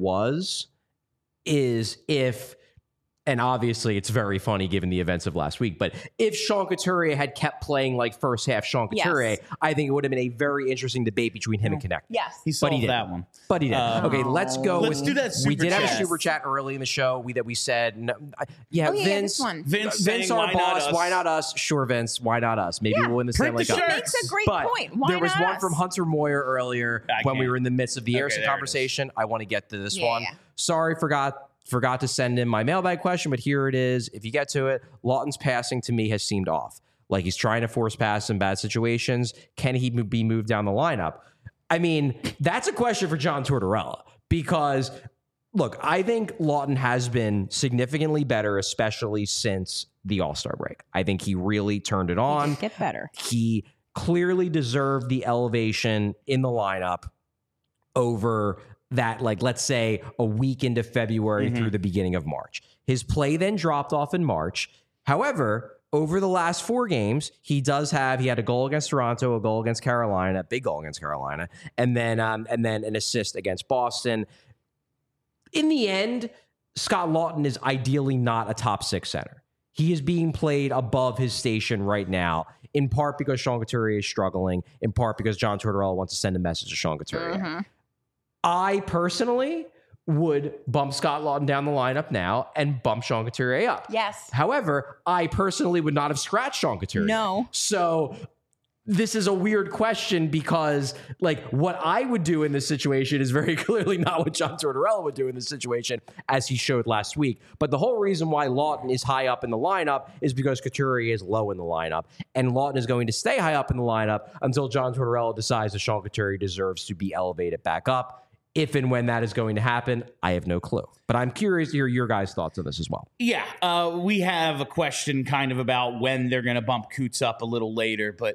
is if, and obviously it's very funny given the events of last week, but if Sean Couturier had kept playing like first half Sean Couturier, I think it would have been a very interesting debate between him and Konechny. Yes. He solved that one. But he did. Okay, let's go. Let's do that We super did have a chat. super chat early in the show that we said, no, Vince. This one. Vince Vince, saying, our why boss. not us? Why not us? Sure, Vince. Why not us? Maybe we'll win the Print Stanley the Cup. shirt. Makes a great But point. Why there was not one us? from Hunter Moyer earlier when we can't. were in the midst of the Harrison there it is. conversation. I want to get to this Yeah, one. yeah. Sorry, forgot to send in my mailbag question, but here it is. If you get to it, Lawton's passing to me has seemed off. Like he's trying to force pass in bad situations. Can he be moved down the lineup? I mean, that's a question for John Tortorella because, look, I think Lawton has been significantly better, especially since the All-Star break. I think he really turned it on. Get better. He clearly deserved the elevation in the lineup over that, like, let's say a week into February through the beginning of March. His play then dropped off in March. However, over the last 4 games, he had a goal against Toronto, a goal against Carolina, big goal against Carolina, and then an assist against Boston. In the end, Scott Lawton is ideally not a top 6 center. He is being played above his station right now, in part because Sean Couturier is struggling, in part because John Tortorella wants to send a message to Sean Couturier. I personally would bump Scott Lawton down the lineup now and bump Sean Couturier up. Yes. However, I personally would not have scratched Sean Couturier. No. So this is a weird question because, like, what I would do in this situation is very clearly not what John Tortorella would do in this situation, as he showed last week. But the whole reason why Lawton is high up in the lineup is because Couturier is low in the lineup. And Lawton is going to stay high up in the lineup until John Tortorella decides that Sean Couturier deserves to be elevated back up. If and when that is going to happen, I have no clue. But I'm curious to hear your guys' thoughts on this as well. Yeah, we have a question kind of about when they're going to bump Coots up a little later, but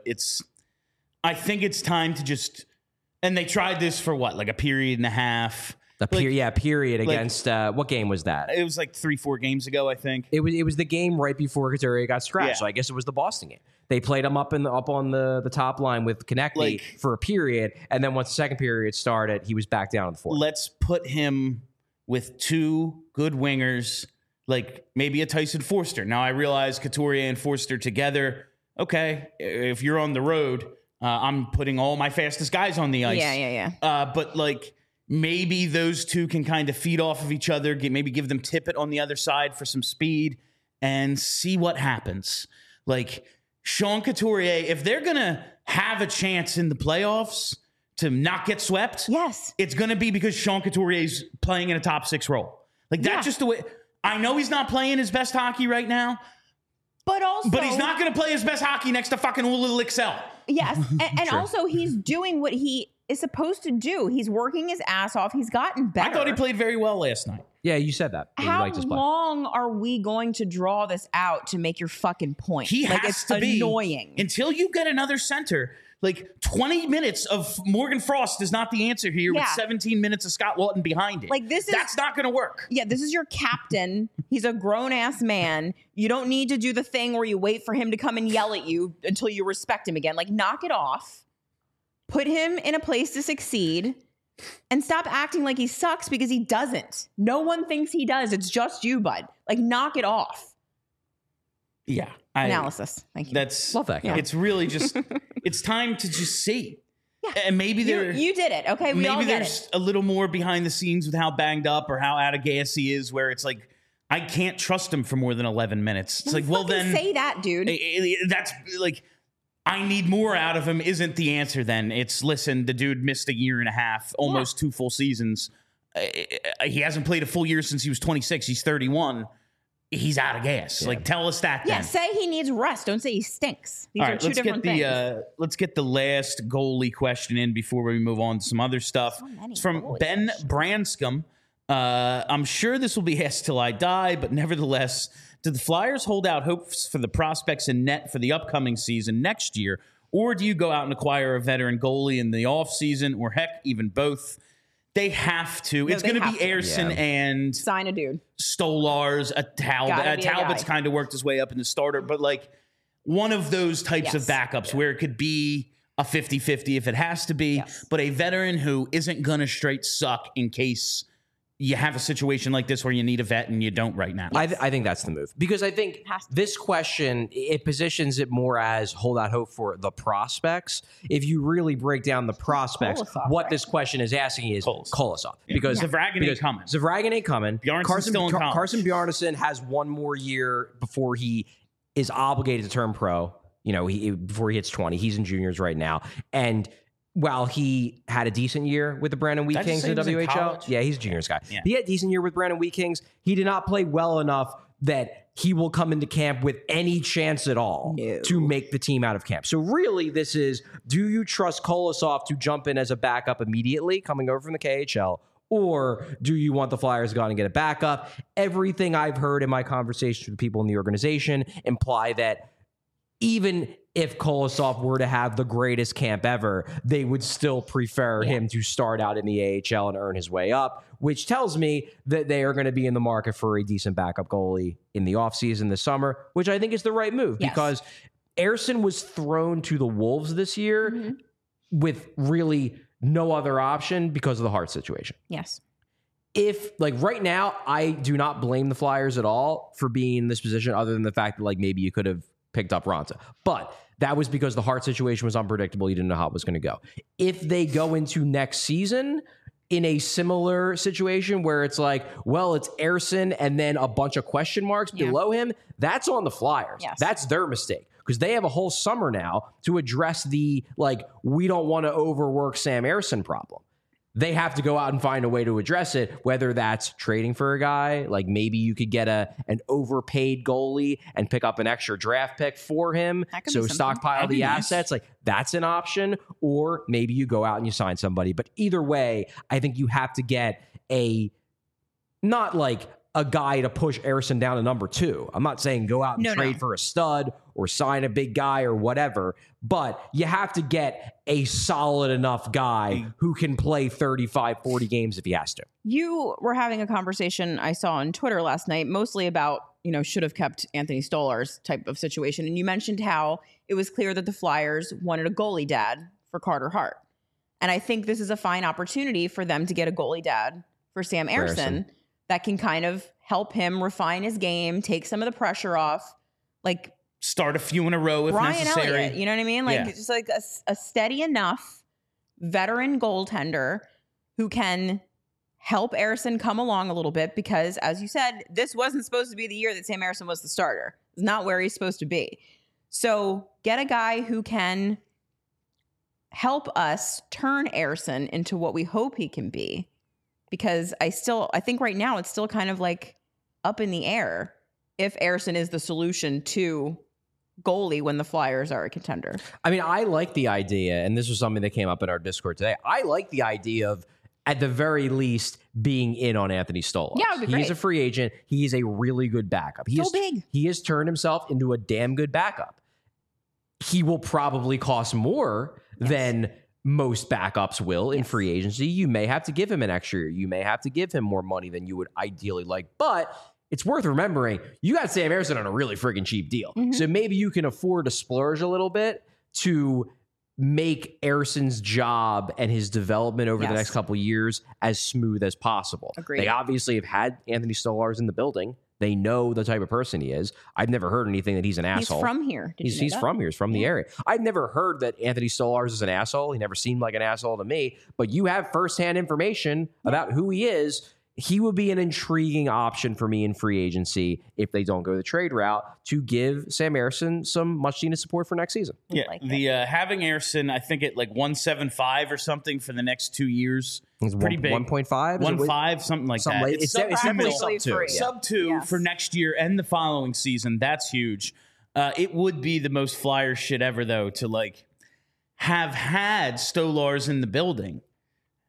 I think it's time to just, and they tried this for what, like a period and a half? Period against, what game was that? It was like 3-4 games ago, I think. It was the game right before Couturier got scratched, Yeah. so I guess it was the Boston game. They played him up on the top line with Konechny for a period, and then once the second period started, he was back down on the fourth. Let's put him with 2 good wingers, like maybe a Tyson Forster. Now I realize Couturier and Forster together. Okay, if you're on the road, I'm putting all my fastest guys on the ice. Yeah. But like maybe those 2 can kind of feed off of each other. Maybe give them Tippett on the other side for some speed and see what happens. Like Sean Couturier, if they're going to have a chance in the playoffs to not get swept, Yes. it's going to be because Sean Couturier is playing in a top 6 role. Like that's just the way. I know he's not playing his best hockey right now, But he's not going to play his best hockey next to fucking Ulil Excel. Yes. And also he's doing what he is supposed to do. He's working his ass off. He's gotten better. I thought he played very well last night. Yeah, you said that. You How liked his play. long are we going to draw this out to make your fucking point? He has it's to be annoying. until you get another center. Like 20 minutes of Morgan Frost is not the answer here with 17 minutes of Scott Lawton behind it. Like that's not going to work. Yeah, this is your captain. He's a grown ass man. You don't need to do the thing where you wait for him to come and yell at you until you respect him again. Like knock it off. Put him in a place to succeed and stop acting like he sucks because he doesn't. No one thinks he does. It's just you, bud. Like knock it off. Yeah. Analysis. Thank you. That's Love that guy. It's really just it's time to just see. Yeah. And maybe you did it. Okay, we all maybe get there's it. a little more behind the scenes with how banged up or how out of gas he is, where it's like I can't trust him for more than 11 minutes. It's like, well, then say that, dude. That's like I need more out of him. Isn't the answer? Then it's listen. The dude missed a year and a half, almost 2 full seasons. He hasn't played a full year since he was 26. He's 31. He's out of gas. Yeah. Like, tell us that. Yeah, then. say he needs rest. Don't say he stinks. These All are right, 2 different things. Let's get the last goalie question in before we move on to some other stuff. So many It's from goalie Ben questions. Branscombe. I'm sure this will be asked till I die, but nevertheless, do the Flyers hold out hopes for the prospects in net for the upcoming season next year, or do you go out and acquire a veteran goalie in the offseason, or heck, even both? They have to. No, it's going to be to. Ersson and Sign a dude. Stolars. Gotta be a Talbot's guy. kind of worked his way up in the starter, but like one of those types of backups where it could be a 50-50 if it has to be, but a veteran who isn't going to straight suck in case you have a situation like this where you need a vet and you don't right now. I think that's the move, because I think this question, it positions it more as hold out hope for the prospects. If you really break down the prospects, Kolosov, what right? this question is asking is Kolosov. Because Zavragin ain't coming. Zavragin ain't coming. Bjarnason's still in college. Carson Bjarnason has one more year before he is obligated to turn pro. Before he hits 20. He's in juniors right now. And while he had a decent year with the Brandon Wheat Kings in the WHL, he's a juniors guy. Yeah. He had a decent year with Brandon Wheat Kings. He did not play well enough that he will come into camp with any chance at all to make the team out of camp. So really, this is, do you trust Kolosov to jump in as a backup immediately coming over from the KHL? Or do you want the Flyers to go out and get a backup? Everything I've heard in my conversations with people in the organization imply that even if Kolosov were to have the greatest camp ever, they would still prefer him to start out in the AHL and earn his way up, which tells me that they are going to be in the market for a decent backup goalie in the offseason this summer, which I think is the right move because Ersson was thrown to the Wolves this year with really no other option because of the Hart situation. Yes. If, like, right now, I do not blame the Flyers at all for being in this position, other than the fact that, like, maybe you could have picked up Raanta. But that was because the Hart situation was unpredictable. You didn't know how it was going to go. If they go into next season in a similar situation where it's like, well, it's Ersson and then a bunch of question marks below him, that's on the Flyers. Yes. That's their mistake. Because they have a whole summer now to address the, like, we don't want to overwork Sam Ersson problem. They have to go out and find a way to address it, whether that's trading for a guy, like maybe you could get an overpaid goalie and pick up an extra draft pick for him, so stockpile the assets. Like, that's an option. Or maybe you go out and you sign somebody. But either way, I think you have to get not like a guy to push Ersson down to number 2. I'm not saying go out and trade for a stud or sign a big guy or whatever, but you have to get a solid enough guy who can play 35, 40 games if he has to. You were having a conversation I saw on Twitter last night, mostly about, should have kept Anthony Stolarz type of situation. And you mentioned how it was clear that the Flyers wanted a goalie dad for Carter Hart. And I think this is a fine opportunity for them to get a goalie dad for Sam Ersson that can kind of help him refine his game, take some of the pressure off, like start a few in a row if Ryan necessary. Elliott, you know what I mean? Like just like a steady enough veteran goaltender who can help Ersson come along a little bit, because as you said, this wasn't supposed to be the year that Sam Ersson was the starter. It's not where he's supposed to be. So get a guy who can help us turn Ersson into what we hope he can be. Because I think right now it's still kind of like up in the air if Ersson is the solution to goalie when the Flyers are a contender. I mean, I like the idea, and this was something that came up in our Discord today. I like the idea of, at the very least, being in on Anthony Stolarz. Yeah, it would be great. He's a free agent. He's a really good backup. Big. He has turned himself into a damn good backup. He will probably cost more than most backups will in free agency. You may have to give him an extra year. You may have to give him more money than you would ideally like. But it's worth remembering, you got Sam Ersson on a really friggin' cheap deal. So maybe you can afford to splurge a little bit to make Ersson's job and his development over the next couple of years as smooth as possible. Agreed. They obviously have had Anthony Stolarz in the building. They know the type of person he is. I've never heard anything that he's an asshole. He's from here. He's from here. He's from the area. I've never heard that Anthony Stolarz is an asshole. He never seemed like an asshole to me. But you have firsthand information about who he is. He would be an intriguing option for me in free agency if they don't go the trade route, to give Sam Ersson some much needed support for next season. Yeah, having Ersson, I think at like 1.75 or something for the next 2 years. It's pretty big. 1.5? 1.5, something like that. It's definitely sub-2. Sub-2 for next year and the following season. That's huge. It would be the most Flyers shit ever, though, to like have had Stolarz in the building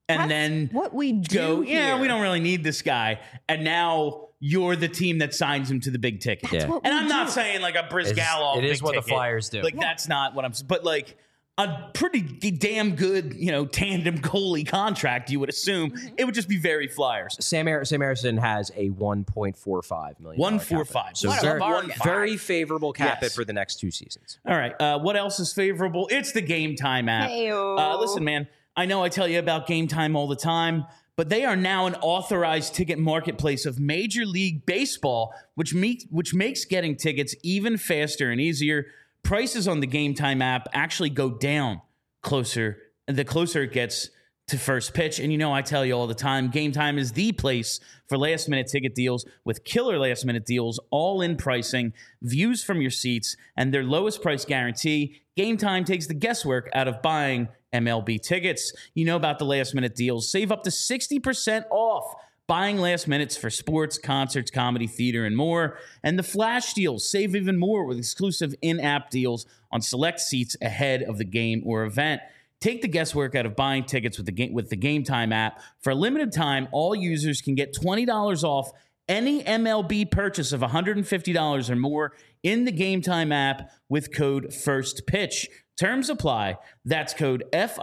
and That's then what we do go, yeah, here. we don't really need this guy. And now you're the team that signs him to the big ticket. Yeah. what And we I'm not do. saying like a Brizgalov. It is big what the ticket. Flyers do. Like that's not what I'm. But like a pretty damn good, tandem goalie contract. You would assume it would just be very Flyers. Sam Harrison has a $1.45 million. 145. So What a very, bargain. very favorable cap Yes. it for the next 2 seasons. All right. What else is favorable? It's the Game Time app. Heyo. Listen, man, I know I tell you about Game Time all the time, but they are now an authorized ticket marketplace of Major League Baseball, which makes getting tickets even faster and easier. Prices on the Game Time app actually go down the closer it gets to first pitch. And I tell you all the time, Game Time is the place for last-minute ticket deals with killer last-minute deals, all-in pricing, views from your seats, and their lowest price guarantee. Game Time takes the guesswork out of buying MLB tickets. You know about the last-minute deals. Save up to 60% off buying last minutes for sports, concerts, comedy, theater, and more. And the flash deals, save even more with exclusive in-app deals on select seats ahead of the game or event. Take the guesswork out of buying tickets with the Game Time app. For a limited time, all users can get $20 off any MLB purchase of $150 or more in the Game Time app with code FIRSTPITCH. Terms apply. That's code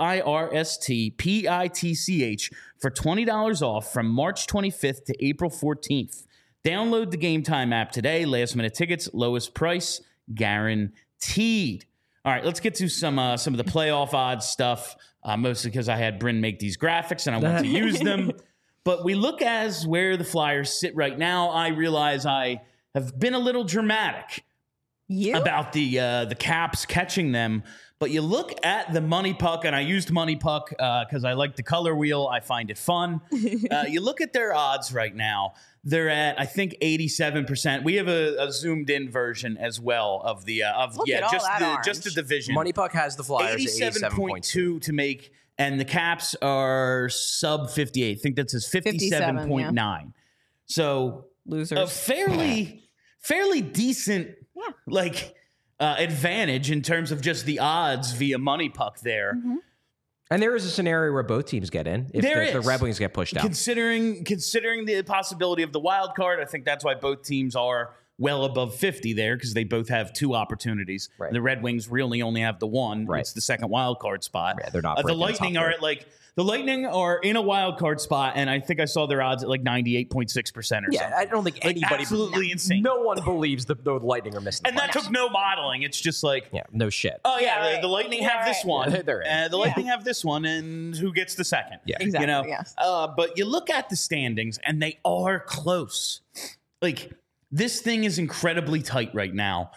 FIRSTPITCH for $20 off from March 25th to April 14th. Download the Game Time app today. Last minute tickets, lowest price guaranteed. All right, let's get to some of the playoff odds stuff, mostly because I had Bryn make these graphics and I want to use them. But we look as where the Flyers sit right now. I realize I have been a little dramatic about the Caps catching them. But you look at the money puck, and I used money puck because I like the color wheel. I find it fun. You look at their odds right now. They're at, I think, 87%. We have a zoomed in version as well of the just the division. Money Puck has the Flyers at 87.2 to make, and the Caps are sub 58. I think that says 57.9. yeah. So Losers. a fairly decent advantage in terms of just the odds via Money Puck there. Mm-hmm. And there is a scenario where both teams get in if the Red Wings get pushed out. Considering the possibility of the wild card, I think that's why both teams are well above 50 there, because they both have 2 opportunities. Right. The Red Wings really only have the one. Right. It's the second wild card spot. Yeah, they're not The breaking the Lightning top are third. at the Lightning are in a wild card spot, and I think I saw their odds at 98.6% or something. Yeah, I don't think anybody. Absolutely insane. No one believes the Lightning are missing. And that took no modeling. It's just yeah, no shit. oh yeah, Yeah, the Lightning have this one. Yeah, they're in. The Lightning have this one, and who gets the second? Yeah. Exactly, yes. But you look at the standings, and they are close. This thing is incredibly tight right now.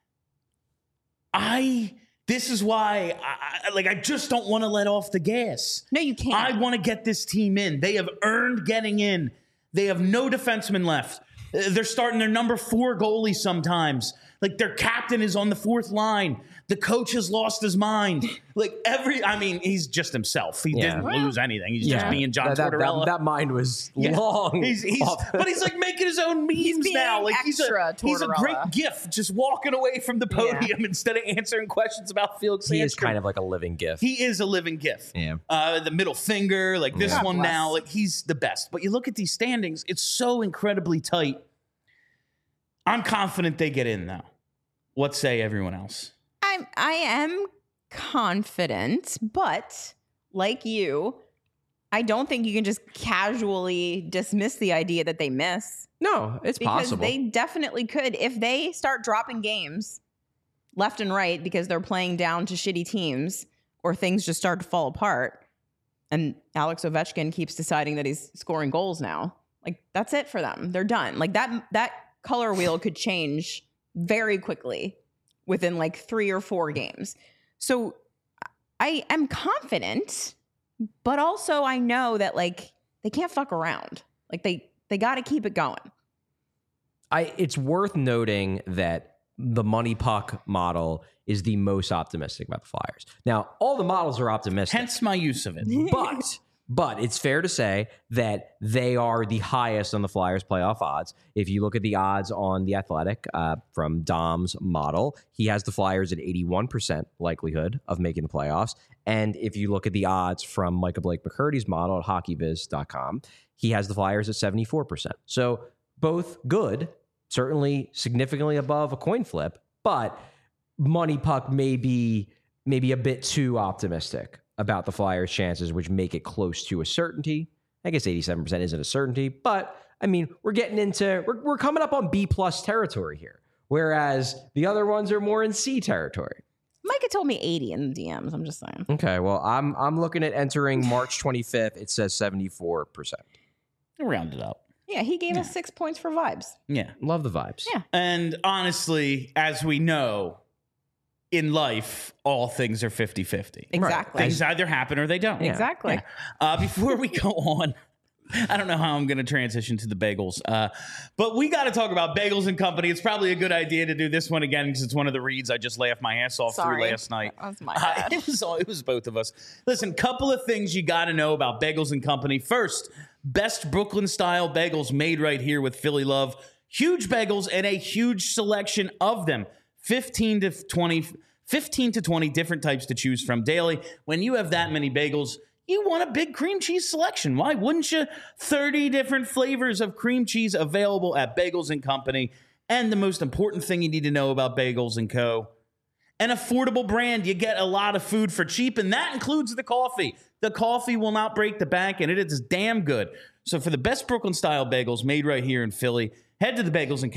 This is why I just don't want to let off the gas. No, you can't. I want to get this team in. They have earned getting in. They have no defensemen left. They're starting their number 4 goalie sometimes. Their captain is on the 4th line. The coach has lost his mind. He's just himself. He didn't lose anything. He's just being John Tortorella. That mind was long. But he's making his own memes being now. He's a Tortorella. great gif, just walking away from the podium instead of answering questions about Felix Sandstrom. He is kind of like a living gif. He is a living gif. Yeah. The middle finger, this God one bless. now, he's the best. But you look at these standings, it's so incredibly tight. I'm confident they get in, though. What say everyone else? I am confident, but like you, I don't think you can just casually dismiss the idea that they miss. No, it's Because possible. they definitely could. If they start dropping games left and right because they're playing down to shitty teams or things just start to fall apart and Alex Ovechkin keeps deciding that he's scoring goals now, that's it for them. They're done. That color wheel could change very quickly within 3 or 4 games. So I am confident, but also I know that they can't fuck around. They got to keep it going. It's worth noting that the Money Puck model is the most optimistic about the Flyers. Now, all the models are optimistic. Hence my use of it. But But it's fair to say that they are the highest on the Flyers playoff odds. If you look at the odds on The Athletic from Dom's model, he has the Flyers at 81% likelihood of making the playoffs. And if you look at the odds from Michael Blake McCurdy's model at hockeyviz.com, he has the Flyers at 74%. So both good, certainly significantly above a coin flip, but Money Puck may be a bit too optimistic about the Flyers' chances, which make it close to a certainty. I guess 87% isn't a certainty, but I mean, we're coming up on B+ territory here, whereas the other ones are more in C territory. Micah told me 80 in the DMs. I'm just saying. Okay, well, I'm looking at entering March 25th. It says 74%. Round it up. Yeah, he gave us 6 points for vibes. Yeah. Love the vibes. Yeah. And honestly, as we know, in life, all things are 50-50. Exactly. Things either happen or they don't. Yeah. Exactly. Before we go on, I don't know how I'm going to transition to the bagels, but we got to talk about Bagels and Company. It's probably a good idea to do this one again because it's one of the reads I just laughed my ass off through last night. That was my bad. It was both of us. Listen, couple of things you got to know about Bagels and Company. First, best Brooklyn-style bagels made right here with Philly love. Huge bagels and a huge selection of them. 15 to 20 different types to choose from daily. When you have that many bagels, you want a big cream cheese selection. Why wouldn't you? 30 different flavors of cream cheese available at Bagels and Company. And the most important thing you need to know about Bagels and Co., an affordable brand. You get a lot of food for cheap, and that includes the coffee. The coffee will not break the bank, and it is damn good. So for the best Brooklyn-style bagels made right here in Philly, head to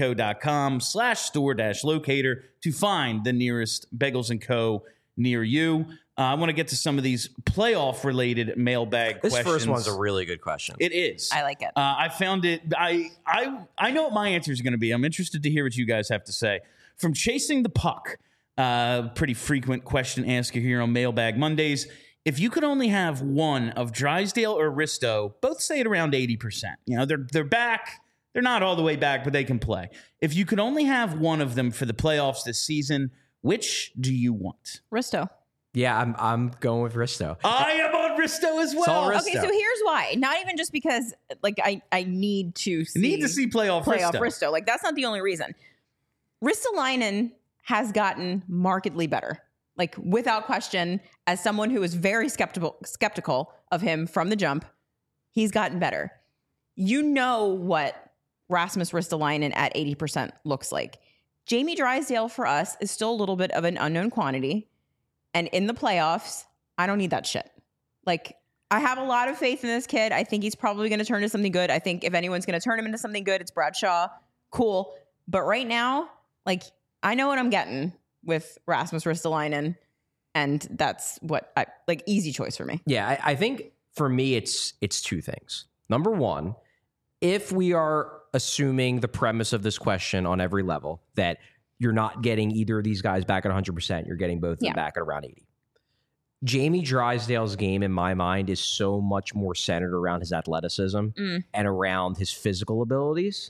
thebagelsandco.com/store-locator to find the nearest Bagels & Co. near you. I want to get to some of these playoff-related mailbag questions. This first one's a really good question. It is. I like it. I found it. I know what my answer is going to be. I'm interested to hear what you guys have to say. From Chasing the Puck, pretty frequent question asker here on Mailbag Mondays. If you could only have one of Drysdale or Risto, both say at around 80%. You know, they're back. They're not all the way back, but they can play. If you could only have one of them for the playoffs this season, which do you want? Risto. Yeah, I'm going with Risto. I am on Risto as well. Okay, so here's why. Not even just because like I need to see playoff Risto. Like that's not the only reason. Ristolainen has markedly better. Like without question, as someone who was very skeptical of him from the jump, he's gotten better. You know what Rasmus Ristolainen at 80% looks like. Jamie Drysdale for us is still a little bit of an unknown quantity. And in the playoffs, I don't need that shit. Like, I have a lot of faith in this kid. I think he's probably going to turn into something good. I think if anyone's going to turn him into something good, it's Brad Shaw. Cool. But right now, like, I know what I'm getting with Rasmus Ristolainen. And that's what easy choice for me. Yeah, I think for me, it's two things. Number one, if we are assuming the premise of this question on every level, that you're not getting either of these guys back at 100%, you're getting both of them back at around 80. Jamie Drysdale's game, in my mind, is so much more centered around his athleticism and around his physical abilities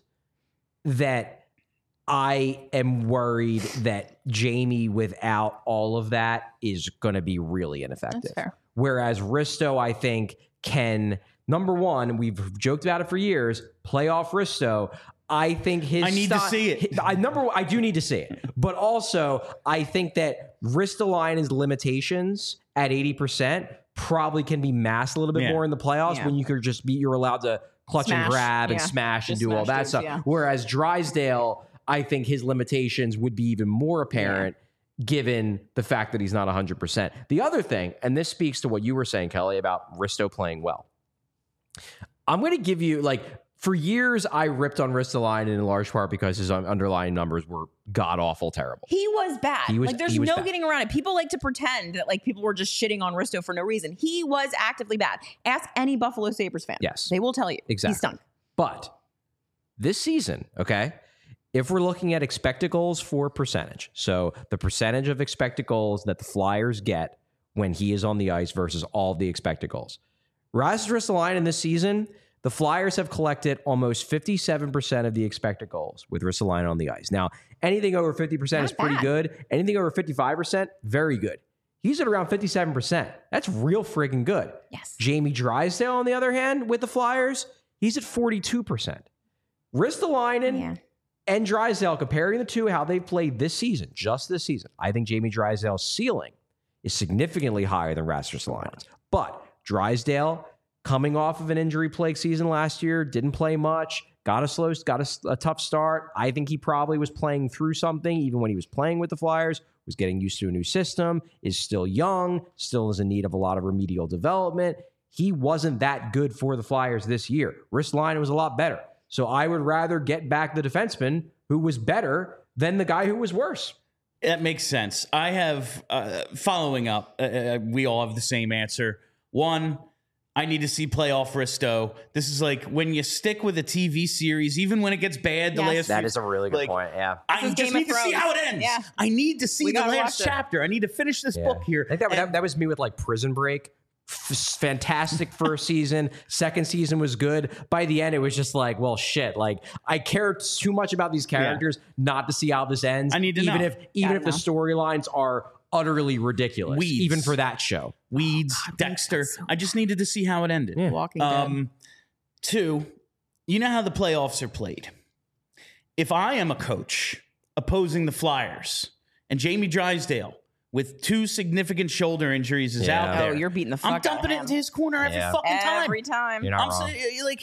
that I am worried that Jamie, without all of that, is going to be really ineffective. That's fair. Whereas Risto, I think, can... Number one, we've joked about it for years, playoff Risto. I think his... I need to see it. I do need to see it. But also, I think that Ristolainen's limitations at 80% probably can be masked a little bit more in the playoffs when you could just be... You're allowed to clutch and grab and smash and do all that stuff. Yeah. Whereas Drysdale, I think his limitations would be even more apparent given the fact that he's not 100%. The other thing, and this speaks to what you were saying, Kelly, about Risto playing well. I'm going to give you, for years, I ripped on Ristolainen in large part because his underlying numbers were god-awful terrible. He was bad. There's no bad. getting around it. People like to pretend that, people were just shitting on Risto for no reason. He was actively bad. Ask any Buffalo Sabres fan. Yes. They will tell you. Exactly. He stunk. But this season, okay, if we're looking at expected goals for percentage, so the percentage of expected goals that the Flyers get when he is on the ice versus all of the expected goals. Rasmus Ristolainen this season, the Flyers have collected almost 57% of the expected goals with Ristolainen on the ice. Now, anything over 50% is pretty good. Anything over 55%, very good. He's at around 57%. That's real friggin' good. Yes. Jamie Drysdale, on the other hand, with the Flyers, he's at 42%. Ristolainen and Drysdale, comparing the two, how they've played this season, just this season, I think Jamie Drysdale's ceiling is significantly higher than Rasmus Ristolainen's. But Drysdale, coming off of an injury-plagued season last year, didn't play much, got a tough start. I think he probably was playing through something, even when he was playing with the Flyers, was getting used to a new system, is still young, still is in need of a lot of remedial development. He wasn't that good for the Flyers this year. Ristolainen was a lot better. So I would rather get back the defenseman who was better than the guy who was worse. That makes sense. I have, following up, we all have the same answer. One, I need to see playoff Risto. This is like when you stick with a TV series, even when it gets bad, the last That is a really good point, yeah. I just need to see how it ends. Yeah. I need to see the last chapter. I need to finish this book here. I think that was me with like Prison Break. Fantastic first season. Second season was good. By the end, it was just like, well, shit. Like, I care too much about these characters not to see how this ends. I need to even know. if the storylines are utterly ridiculous, Weeds. even for that show. Weeds, Dexter. I just needed to see how it ended. Yeah. Walking Dead. Two, you know how the playoffs are played. If I am a coach opposing the Flyers and Jamie Drysdale with 2 significant shoulder injuries is out there. Oh, you're beating the fuck I'm out dumping of it him. into his corner every fucking time. Every time. You're not wrong.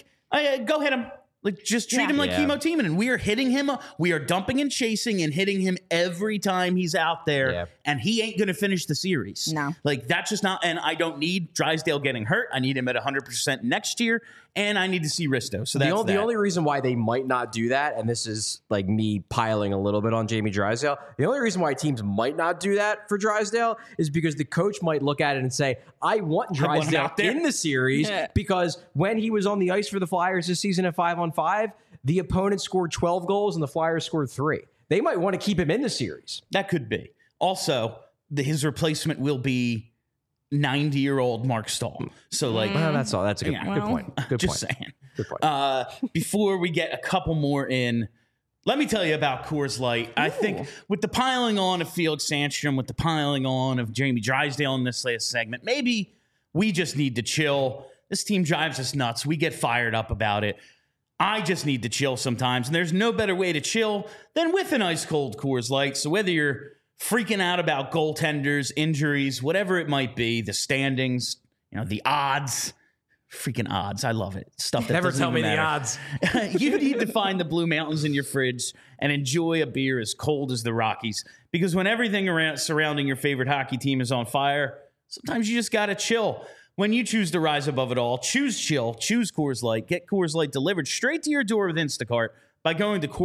Go hit him. Like, just treat him like Chemo Timonen. We are hitting him. We are dumping and chasing and hitting him every time he's out there. Yeah. And he ain't going to finish the series. No. Like, that's just not. And I don't need Drysdale getting hurt. I need him at 100% next year. And I need to see Risto. So that's The only reason why they might not do that, and this is like me piling a little bit on Jamie Drysdale, the only reason why teams might not do that for Drysdale is because the coach might look at it and say, I want Drysdale out there. in the series because when he was on the ice for the Flyers this season at 5-on-5, the opponent scored 12 goals and the Flyers scored 3. They might want to keep him in the series. That could be. Also, his replacement will be 90-year-old Mark Stahl. So, like, That's all. That's a good point. Good just point. saying. Good point. Before we get a couple more in, let me tell you about Coors Light. I think with the piling on of Felix Sandstrom, with the piling on of Jamie Drysdale in this last segment, maybe we just need to chill. This team drives us nuts. We get fired up about it. I just need to chill sometimes, and there's no better way to chill than with an ice-cold Coors Light. So whether you're freaking out about goaltenders, injuries, whatever it might be, the standings, the odds, freaking odds. I love it. Stuff that Never doesn't tell me even the matter. odds. You need to find the Blue Mountains in your fridge and enjoy a beer as cold as the Rockies. Because when everything surrounding your favorite hockey team is on fire, sometimes you just got to chill. When you choose to rise above it all, choose chill, choose Coors Light. Get Coors Light delivered straight to your door with Instacart by going to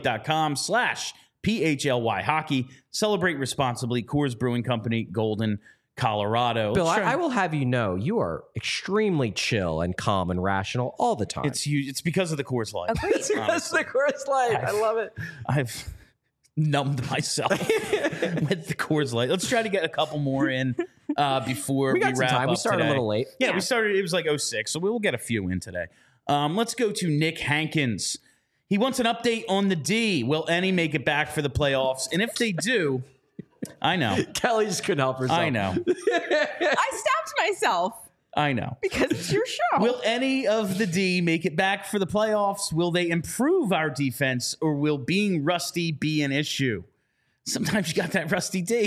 CoorsLight.com/PHLY hockey. Celebrate responsibly. Coors Brewing Company, Golden, Colorado. Bill, I will have you know, you are extremely chill and calm and rational all the time. It's because of the Coors Light. That's the Coors Light. I love it. I've numbed myself with the Coors Light. Let's try to get a couple more in before we got some wrap time. up We started today. a little late. Yeah, we started. It was like 06, so we'll get a few in today. Let's go to Nick Hankins. He wants an update on the D. Will any make it back for the playoffs? And if they do, I know. Kelly just couldn't help herself. I know. I stopped myself I know. because it's your show. Will any of the D make it back for the playoffs? Will they improve our defense, or will being rusty be an issue? Sometimes you got that rusty D.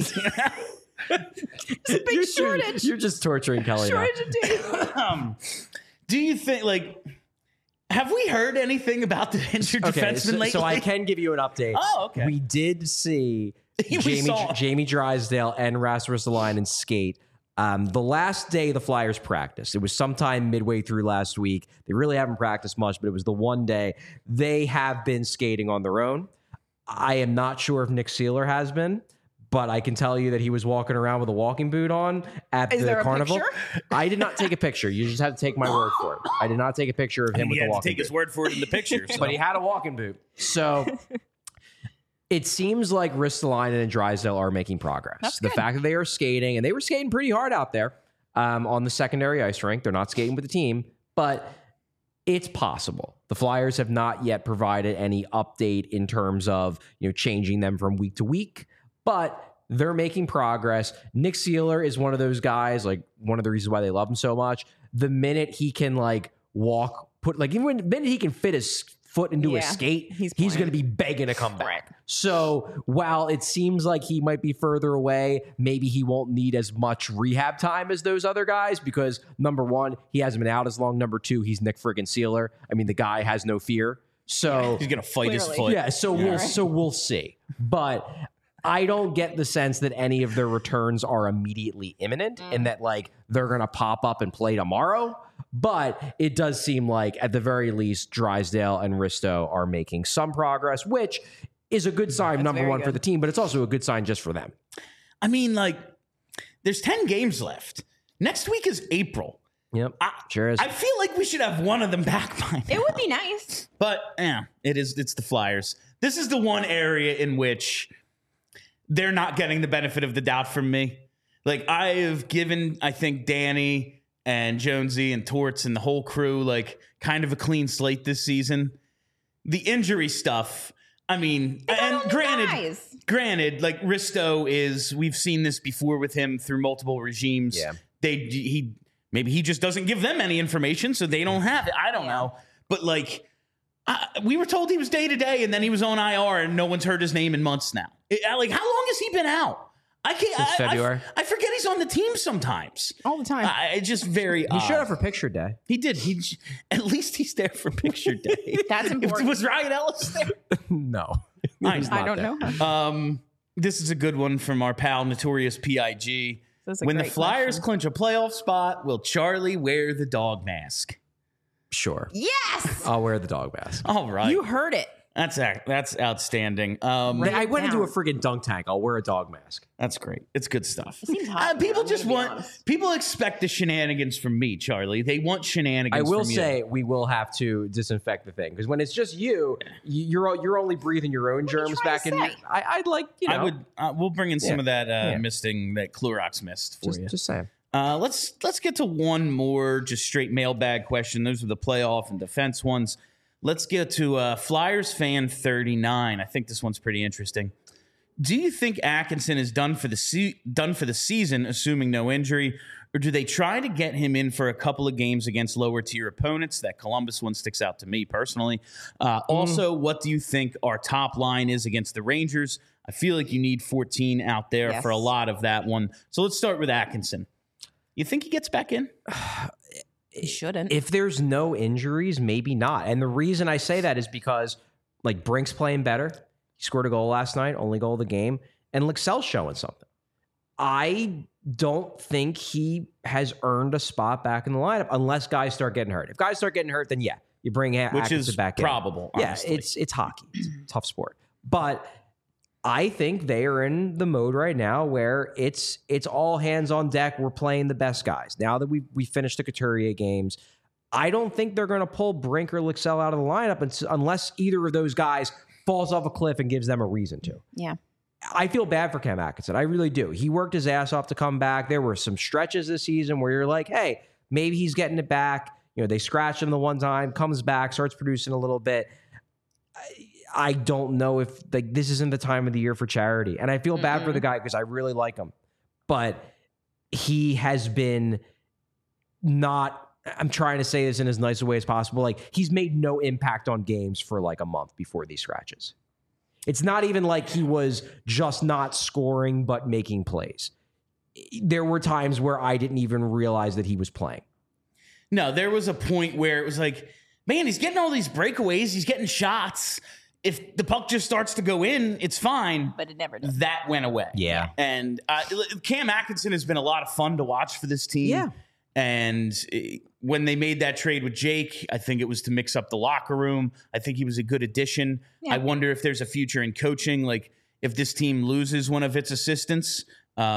It's a big shortage. You're just torturing Kelly now. Shortage of days. Do you think, have we heard anything about the injured defenseman lately? So I can give you an update. Oh, okay. We did see Jamie Drysdale and Rasmus Ristolainen skate. The last day the Flyers practiced, it was sometime midway through last week. They really haven't practiced much, but it was the one day. They have been skating on their own. I am not sure if Nick Seeler has been, but I can tell you that he was walking around with a walking boot on at the carnival. I did not take a picture. You just have to take my word for it. I did not take a picture of him with the walking boot. You had to take his word for it in the picture. So. But he had a walking boot. So it seems like Ristolainen and Drysdale are making progress. That's the good. fact that they are skating, and they were skating pretty hard out there on the secondary ice rink. They're not skating with the team, but it's possible. The Flyers have not yet provided any update in terms of changing them from week to week, but they're making progress. Nick Sealer is one of those guys, like one of the reasons why they love him so much. The minute he can like walk, even the minute he can fit his foot into a skate, he's going to be begging to come back. Right. So while it seems like he might be further away, maybe he won't need as much rehab time as those other guys because number one, he hasn't been out as long. Number two, he's Nick friggin' Sealer. I mean, the guy has no fear. So he's gonna fight his Clearly. foot. yeah, so we'll see. But I don't get the sense that any of their returns are immediately imminent and that like they're going to pop up and play tomorrow. But it does seem like at the very least, Drysdale and Risto are making some progress, which is a good sign, number one, for the team, but it's also a good sign just for them. I mean, like, there's 10 games left. Next week is April. Yep, sure is. I feel like we should have one of them back by now. It would be nice. But yeah, it's the Flyers. This is the one area in which they're not getting the benefit of the doubt from me. Like, I have given, I think, Danny and Jonesy and Torts and the whole crew, like, kind of a clean slate this season. The injury stuff, I mean, and granted, like, Risto is, we've seen this before with him through multiple regimes. Yeah. Maybe he just doesn't give them any information, so they don't have it. I don't know. But, like, we were told he was day-to-day, and then he was on IR, and no one's heard his name in months now. Like, how long has he been out? Since February. I forget he's on the team sometimes. All the time. It's just very He showed up for picture day. He did. At least he's there for picture day. That's important. Was Ryan Ellis there? No. I don't know. This is a good one from our pal, Notorious PIG. When the Flyers clinch a playoff spot, will Charlie wear the dog mask? Sure. Yes. I'll wear the dog mask. All right. You heard it. That's outstanding. I went into a friggin' dunk tank. I'll wear a dog mask. That's great. It's good stuff. It seems hot. People expect the shenanigans from me, Charlie. They want shenanigans. I will from say you. we will have to disinfect the thing because when it's just you're only breathing your own germs back in. I'd like I would. We'll bring in some of that misting, that Clorox mist for you. Just saying. Let's get to one more just straight mailbag question. Those are the playoff and defense ones. Let's get to Flyers fan 39. I think this one's pretty interesting. Do you think Atkinson is done for the season, assuming no injury, or do they try to get him in for a couple of games against lower tier opponents? That Columbus one sticks out to me personally. Also, what do you think our top line is against the Rangers? I feel like you need 14 out there for a lot of that one. So let's start with Atkinson. You think he gets back in? He shouldn't. If there's no injuries, maybe not. And the reason I say that is because like Brink's playing better. He scored a goal last night, only goal of the game, and Lexell's showing something. I don't think he has earned a spot back in the lineup unless guys start getting hurt. If guys start getting hurt, then yeah, you bring Atkinson back in. Which is probable, honestly. Yeah, it's hockey. It's a tough sport. But I think they are in the mode right now where it's all hands on deck. We're playing the best guys. Now that we finished the Couturier games, I don't think they're going to pull Brink or Lexell out of the lineup unless either of those guys falls off a cliff and gives them a reason to. Yeah. I feel bad for Cam Atkinson. I really do. He worked his ass off to come back. There were some stretches this season where you're like, hey, maybe he's getting it back. You know, they scratched him the one time, comes back, starts producing a little bit. I don't know if this isn't the time of the year for charity. And I feel bad for the guy because I really like him. But he has been not, I'm trying to say this in as nice a way as possible. Like, he's made no impact on games for like a month before these scratches. It's not even like he was just not scoring but making plays. There were times where I didn't even realize that he was playing. No, there was a point where it was like, man, he's getting all these breakaways. He's getting shots. If the puck just starts to go in, it's fine. But it never does. That went away. Yeah. And Cam Atkinson has been a lot of fun to watch for this team. Yeah. And when they made that trade with Jake, I think it was to mix up the locker room. I think he was a good addition. Yeah. I wonder if there's a future in coaching. Like, if this team loses one of its assistants.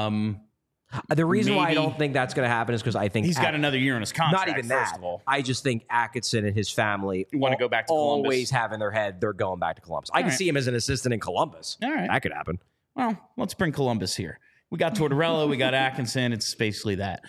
The reason why I don't think that's going to happen is because I think he's got another year on his contract. Not even that. First of all. I just think Atkinson and his family want to go back to Columbus. Always have in their head they're going back to Columbus. I can see him as an assistant in Columbus. All right. That could happen. Well, let's bring Columbus here. We got Tortorella, we got Atkinson. It's basically that.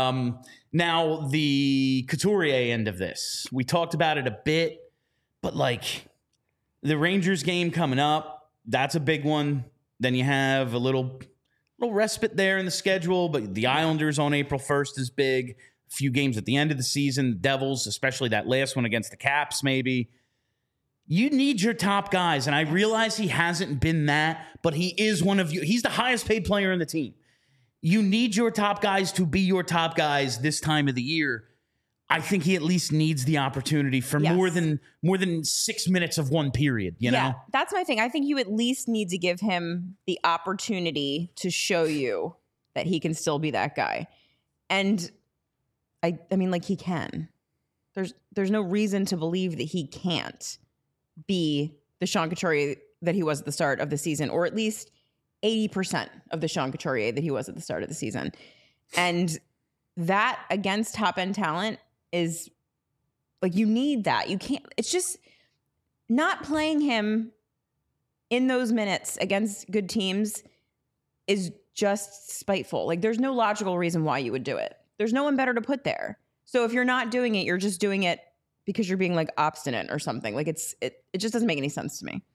Now, the Couturier end of this. We talked about it a bit, but like the Rangers game coming up, that's a big one. Then you have a little little respite there in the schedule, but the Islanders on April 1st is big. A few games at the end of the season, the Devils, especially that last one against the Caps, maybe. You need your top guys, and I realize he hasn't been that, but he is one of you. He's the highest paid player in the team. You need your top guys to be your top guys this time of the year. I think he at least needs the opportunity for more than 6 minutes of one period, you know? That's my thing. I think you at least need to give him the opportunity to show you that he can still be that guy. And I mean, like, he can. There's no reason to believe that he can't be the Sean Couturier that he was at the start of the season, or at least 80% of the Sean Couturier that he was at the start of the season. And that against top end talent is like, you need that. You can't, it's just not playing him in those minutes against good teams is just spiteful. Like, there's no logical reason why you would do it. There's no one better to put there. So if you're not doing it, you're just doing it because you're being like obstinate or something. Like, it just doesn't make any sense to me.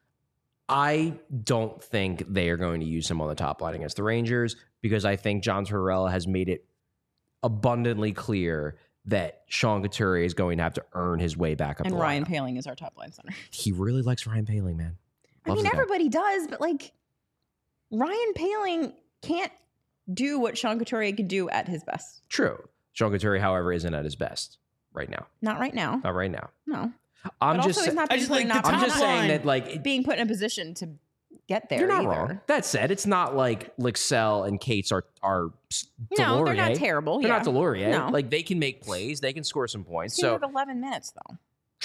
I don't think they are going to use him on the top line against the Rangers, because I think John Tortorella has made it abundantly clear that Sean Couturier is going to have to earn his way back up. And the Ryan lineup. Poehling is our top line center. He really likes Ryan Poehling, man. I mean, everybody does, but like, Ryan Poehling can't do what Sean Couturier could do at his best. True. Sean Couturier, however, isn't at his best right now. Not right now. Not right now. No. I'm But just also, he's not I being just put like in the opposition- top I'm just saying line. that, like, being put in a position to get there. you're not either. wrong. That said, it's not like Lixell and Cates are No, Delorier. they're not terrible. They're yeah. not Delorier. No. Like, they can make plays. They can score some points. He So had 11 minutes though.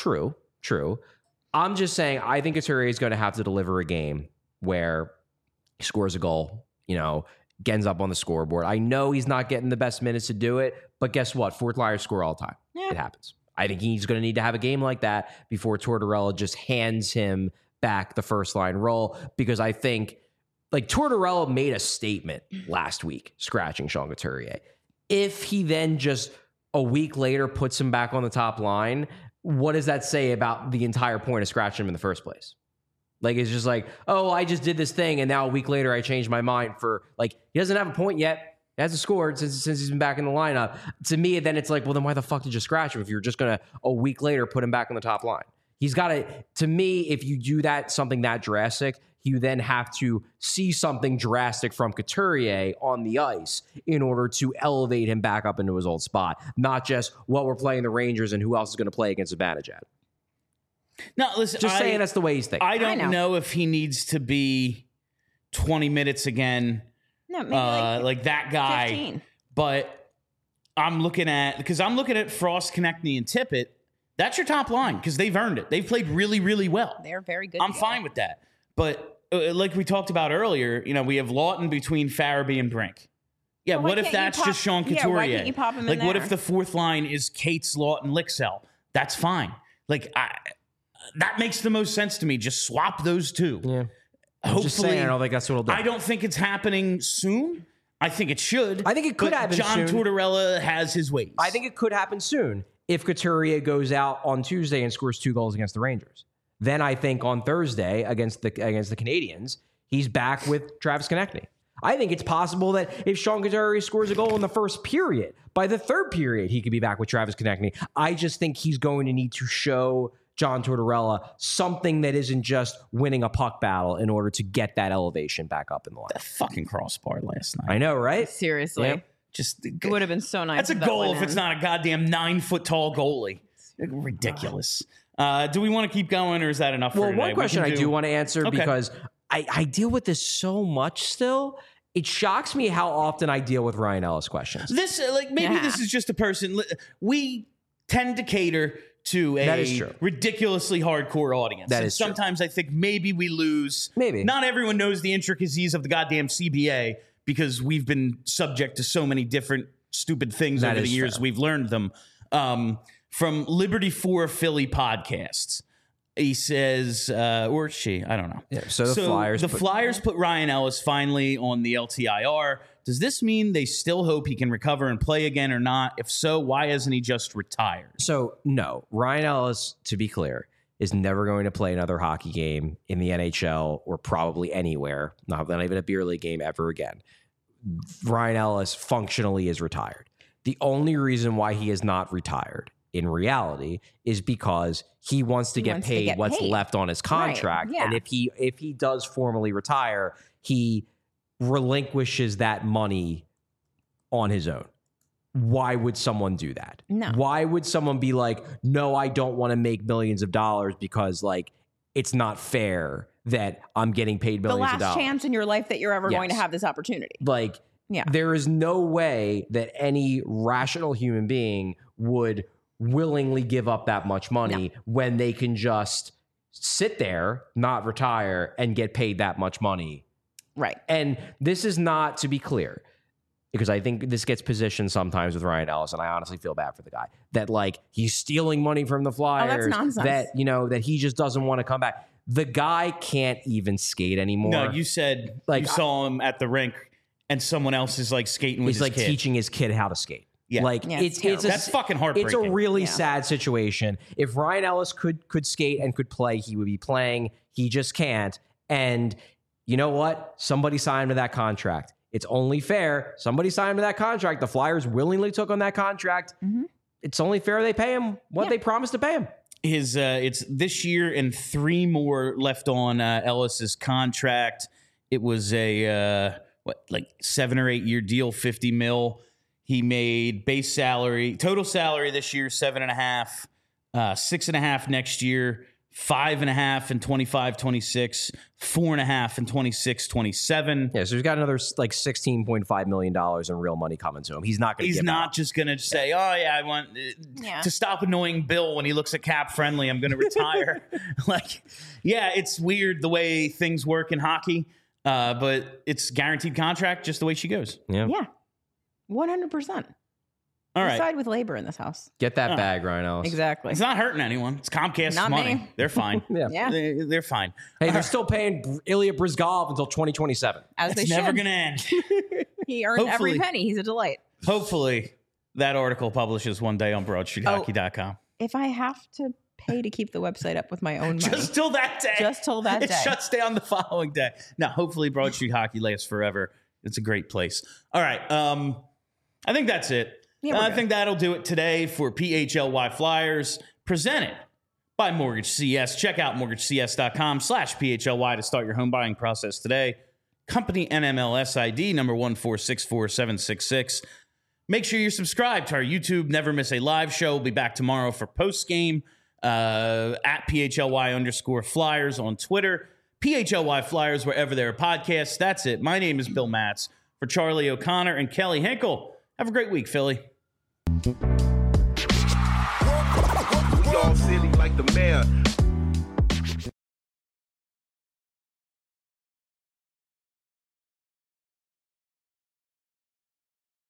True. I'm just saying, I think Couturier is going to have to deliver a game where he scores a goal, gets up on the scoreboard. I know he's not getting the best minutes to do it, but guess what? Fourth liners score all the time. Yeah. It happens. I think he's going to need to have a game like that before Tortorella just hands him back the first line role, because I think, like, Tortorella made a statement last week scratching Sean Couturier. If he then just a week later puts him back on the top line, what does that say about the entire point of scratching him in the first place? Like, it's just like, oh, I just did this thing, and now a week later I changed my mind for, like, he doesn't have a point yet. He hasn't scored since he's been back in the lineup. To me, then it's like, well, then why the fuck did you scratch him if you're just going to, a week later, put him back on the top line? He's got to me, if you do that, something that drastic, you then have to see something drastic from Couturier on the ice in order to elevate him back up into his old spot. Not just, well, we're playing the Rangers and who else is going to play against Zibanejad. No, listen, Just saying that's the way he's thinking. I don't know if he needs to be 20 minutes again. No, maybe like that guy. 15. But I'm looking at Frost, Konechny, and Tippett. That's your top line because they've earned it. They've played really, really well. They're very good. I'm together. fine with that. But like we talked about earlier, we have Lawton between Farabee and Brink. Yeah, Well, why what if can't you that's pop- just Sean Couturier? Yeah, why can't you pop him in like, what there? if the fourth line is Cates, Lawton, Lixell? That's fine. Like, that makes the most sense to me. Just swap those two. Yeah. Hopefully, Just saying, I don't think that's what he'll do. I don't think it's happening soon. I think it should. I think it could but happen John soon. Tortorella has his ways. I think it could happen soon if Couturier goes out on Tuesday and scores 2 goals against the Rangers. Then I think on Thursday against the Canadians, he's back with Travis Konechny. I think it's possible that if Sean Couturier scores a goal in the first period, by the third period, he could be back with Travis Konechny. I just think he's going to need to show John Tortorella something that isn't just winning a puck battle in order to get that elevation back up in the line. that fucking crossbar last night. I know, right? Seriously. Yep. Just It would have been so nice. that's a if that goal went if it's in. not a goddamn 9-foot tall goalie. Ridiculous. Do we want to keep going or is that enough? Well, for today? one We question can I do want to answer Okay. because I deal with this so much still. It shocks me how often I deal with Ryan Ellis questions. This maybe Yeah. this is just a person. We tend to cater to That is a true. ridiculously hardcore audience. That And is true. sometimes I think maybe we lose. Maybe. Not everyone knows the intricacies of the goddamn CBA because we've been subject to so many different stupid things That over the is years. fair. We've learned them from Liberty 4 Philly podcasts. He says, or she, I don't know. Yeah, so the Flyers put Ryan Ellis finally on the LTIR. Does this mean they still hope he can recover and play again or not? If so, why hasn't he just retired? So, no. Ryan Ellis, to be clear, is never going to play another hockey game in the NHL or probably anywhere, not even a beer league game ever again. Ryan Ellis functionally is retired. The only reason why he is not retired in reality is because he wants to get paid what's left on his contract. Right, yeah. And if he does formally retire, he relinquishes that money on his own. Why would someone do that? No. Why would someone be like, no, I don't want to make millions of dollars because like it's not fair that I'm getting paid millions of dollars. The last chance in your life that you're ever Yes. going to have this opportunity. Like, Yeah. there is no way that any rational human being would willingly give up that much money when they can just sit there, not retire, and get paid that much money. Right. And this is not, to be clear, because I think this gets positioned sometimes with Ryan Ellis, and I honestly feel bad for the guy, that like he's stealing money from the Flyers. nonsense. That, you know, that he just doesn't want to come back. The guy can't even skate anymore. No, you said Like, you saw him at the rink and someone else is like skating with he's his like kid. teaching his kid how to skate. Yeah. Like Yeah, it's it's That's fucking heartbreaking. It's a really Yeah. sad situation. If Ryan Ellis could skate and could play, he would be playing. He just can't. And you know what? Somebody signed him to that contract. It's only fair. Somebody signed him to that contract. The Flyers willingly took on that contract. Mhm. It's only fair they pay him what they promised to pay him. His it's this year and 3 more left on Ellis's contract. It was a like 7 or 8 year deal, $50 million. He made base salary, total salary this year, 7.5, 6.5 next year, 5.5 in 25-26, 4.5 in 26-27. Yeah, so he's got another like $16.5 million in real money coming to him. He's not going to He's give not out. just going to say, oh, yeah, I want to stop annoying Bill when he looks at cap friendly. I'm going to retire. Like, yeah, it's weird the way things work in hockey, but it's guaranteed contract just the way she goes. Yeah. Yeah. 100%. All We right. side with labor in this house. Get that Oh. bag, Ryan Ellis. Exactly. It's not hurting anyone. It's Comcast's Not money. me. They're fine. Yeah. Yeah. They're fine. Hey, they're still paying Ilya Brizgalov until 2027. As It's they never should. going to end. He earned Hopefully. every penny. He's a delight. Hopefully, that article publishes one day on BroadStreetHockey.com. If I have to pay to keep the website up with my own money, Just till that day. just till that It day. shuts down the following day. Now, hopefully, Broad Street Hockey lasts forever. It's a great place. All right. I think that's it. Yeah, we're I good. think that'll do it today for PHLY Flyers, presented by Mortgage CS. Check out mortgagecs.com/PHLY to start your home buying process today. Company NMLS ID number 1464766. Make sure you're subscribed to our YouTube. Never miss a live show. We'll be back tomorrow for post game at PHLY_Flyers on Twitter. PHLY Flyers wherever there are podcasts. That's it. My name is Bill Matz. For Charlie O'Connor and Kelly Hinkle, have a great week, Philly. We all silly like the mayor.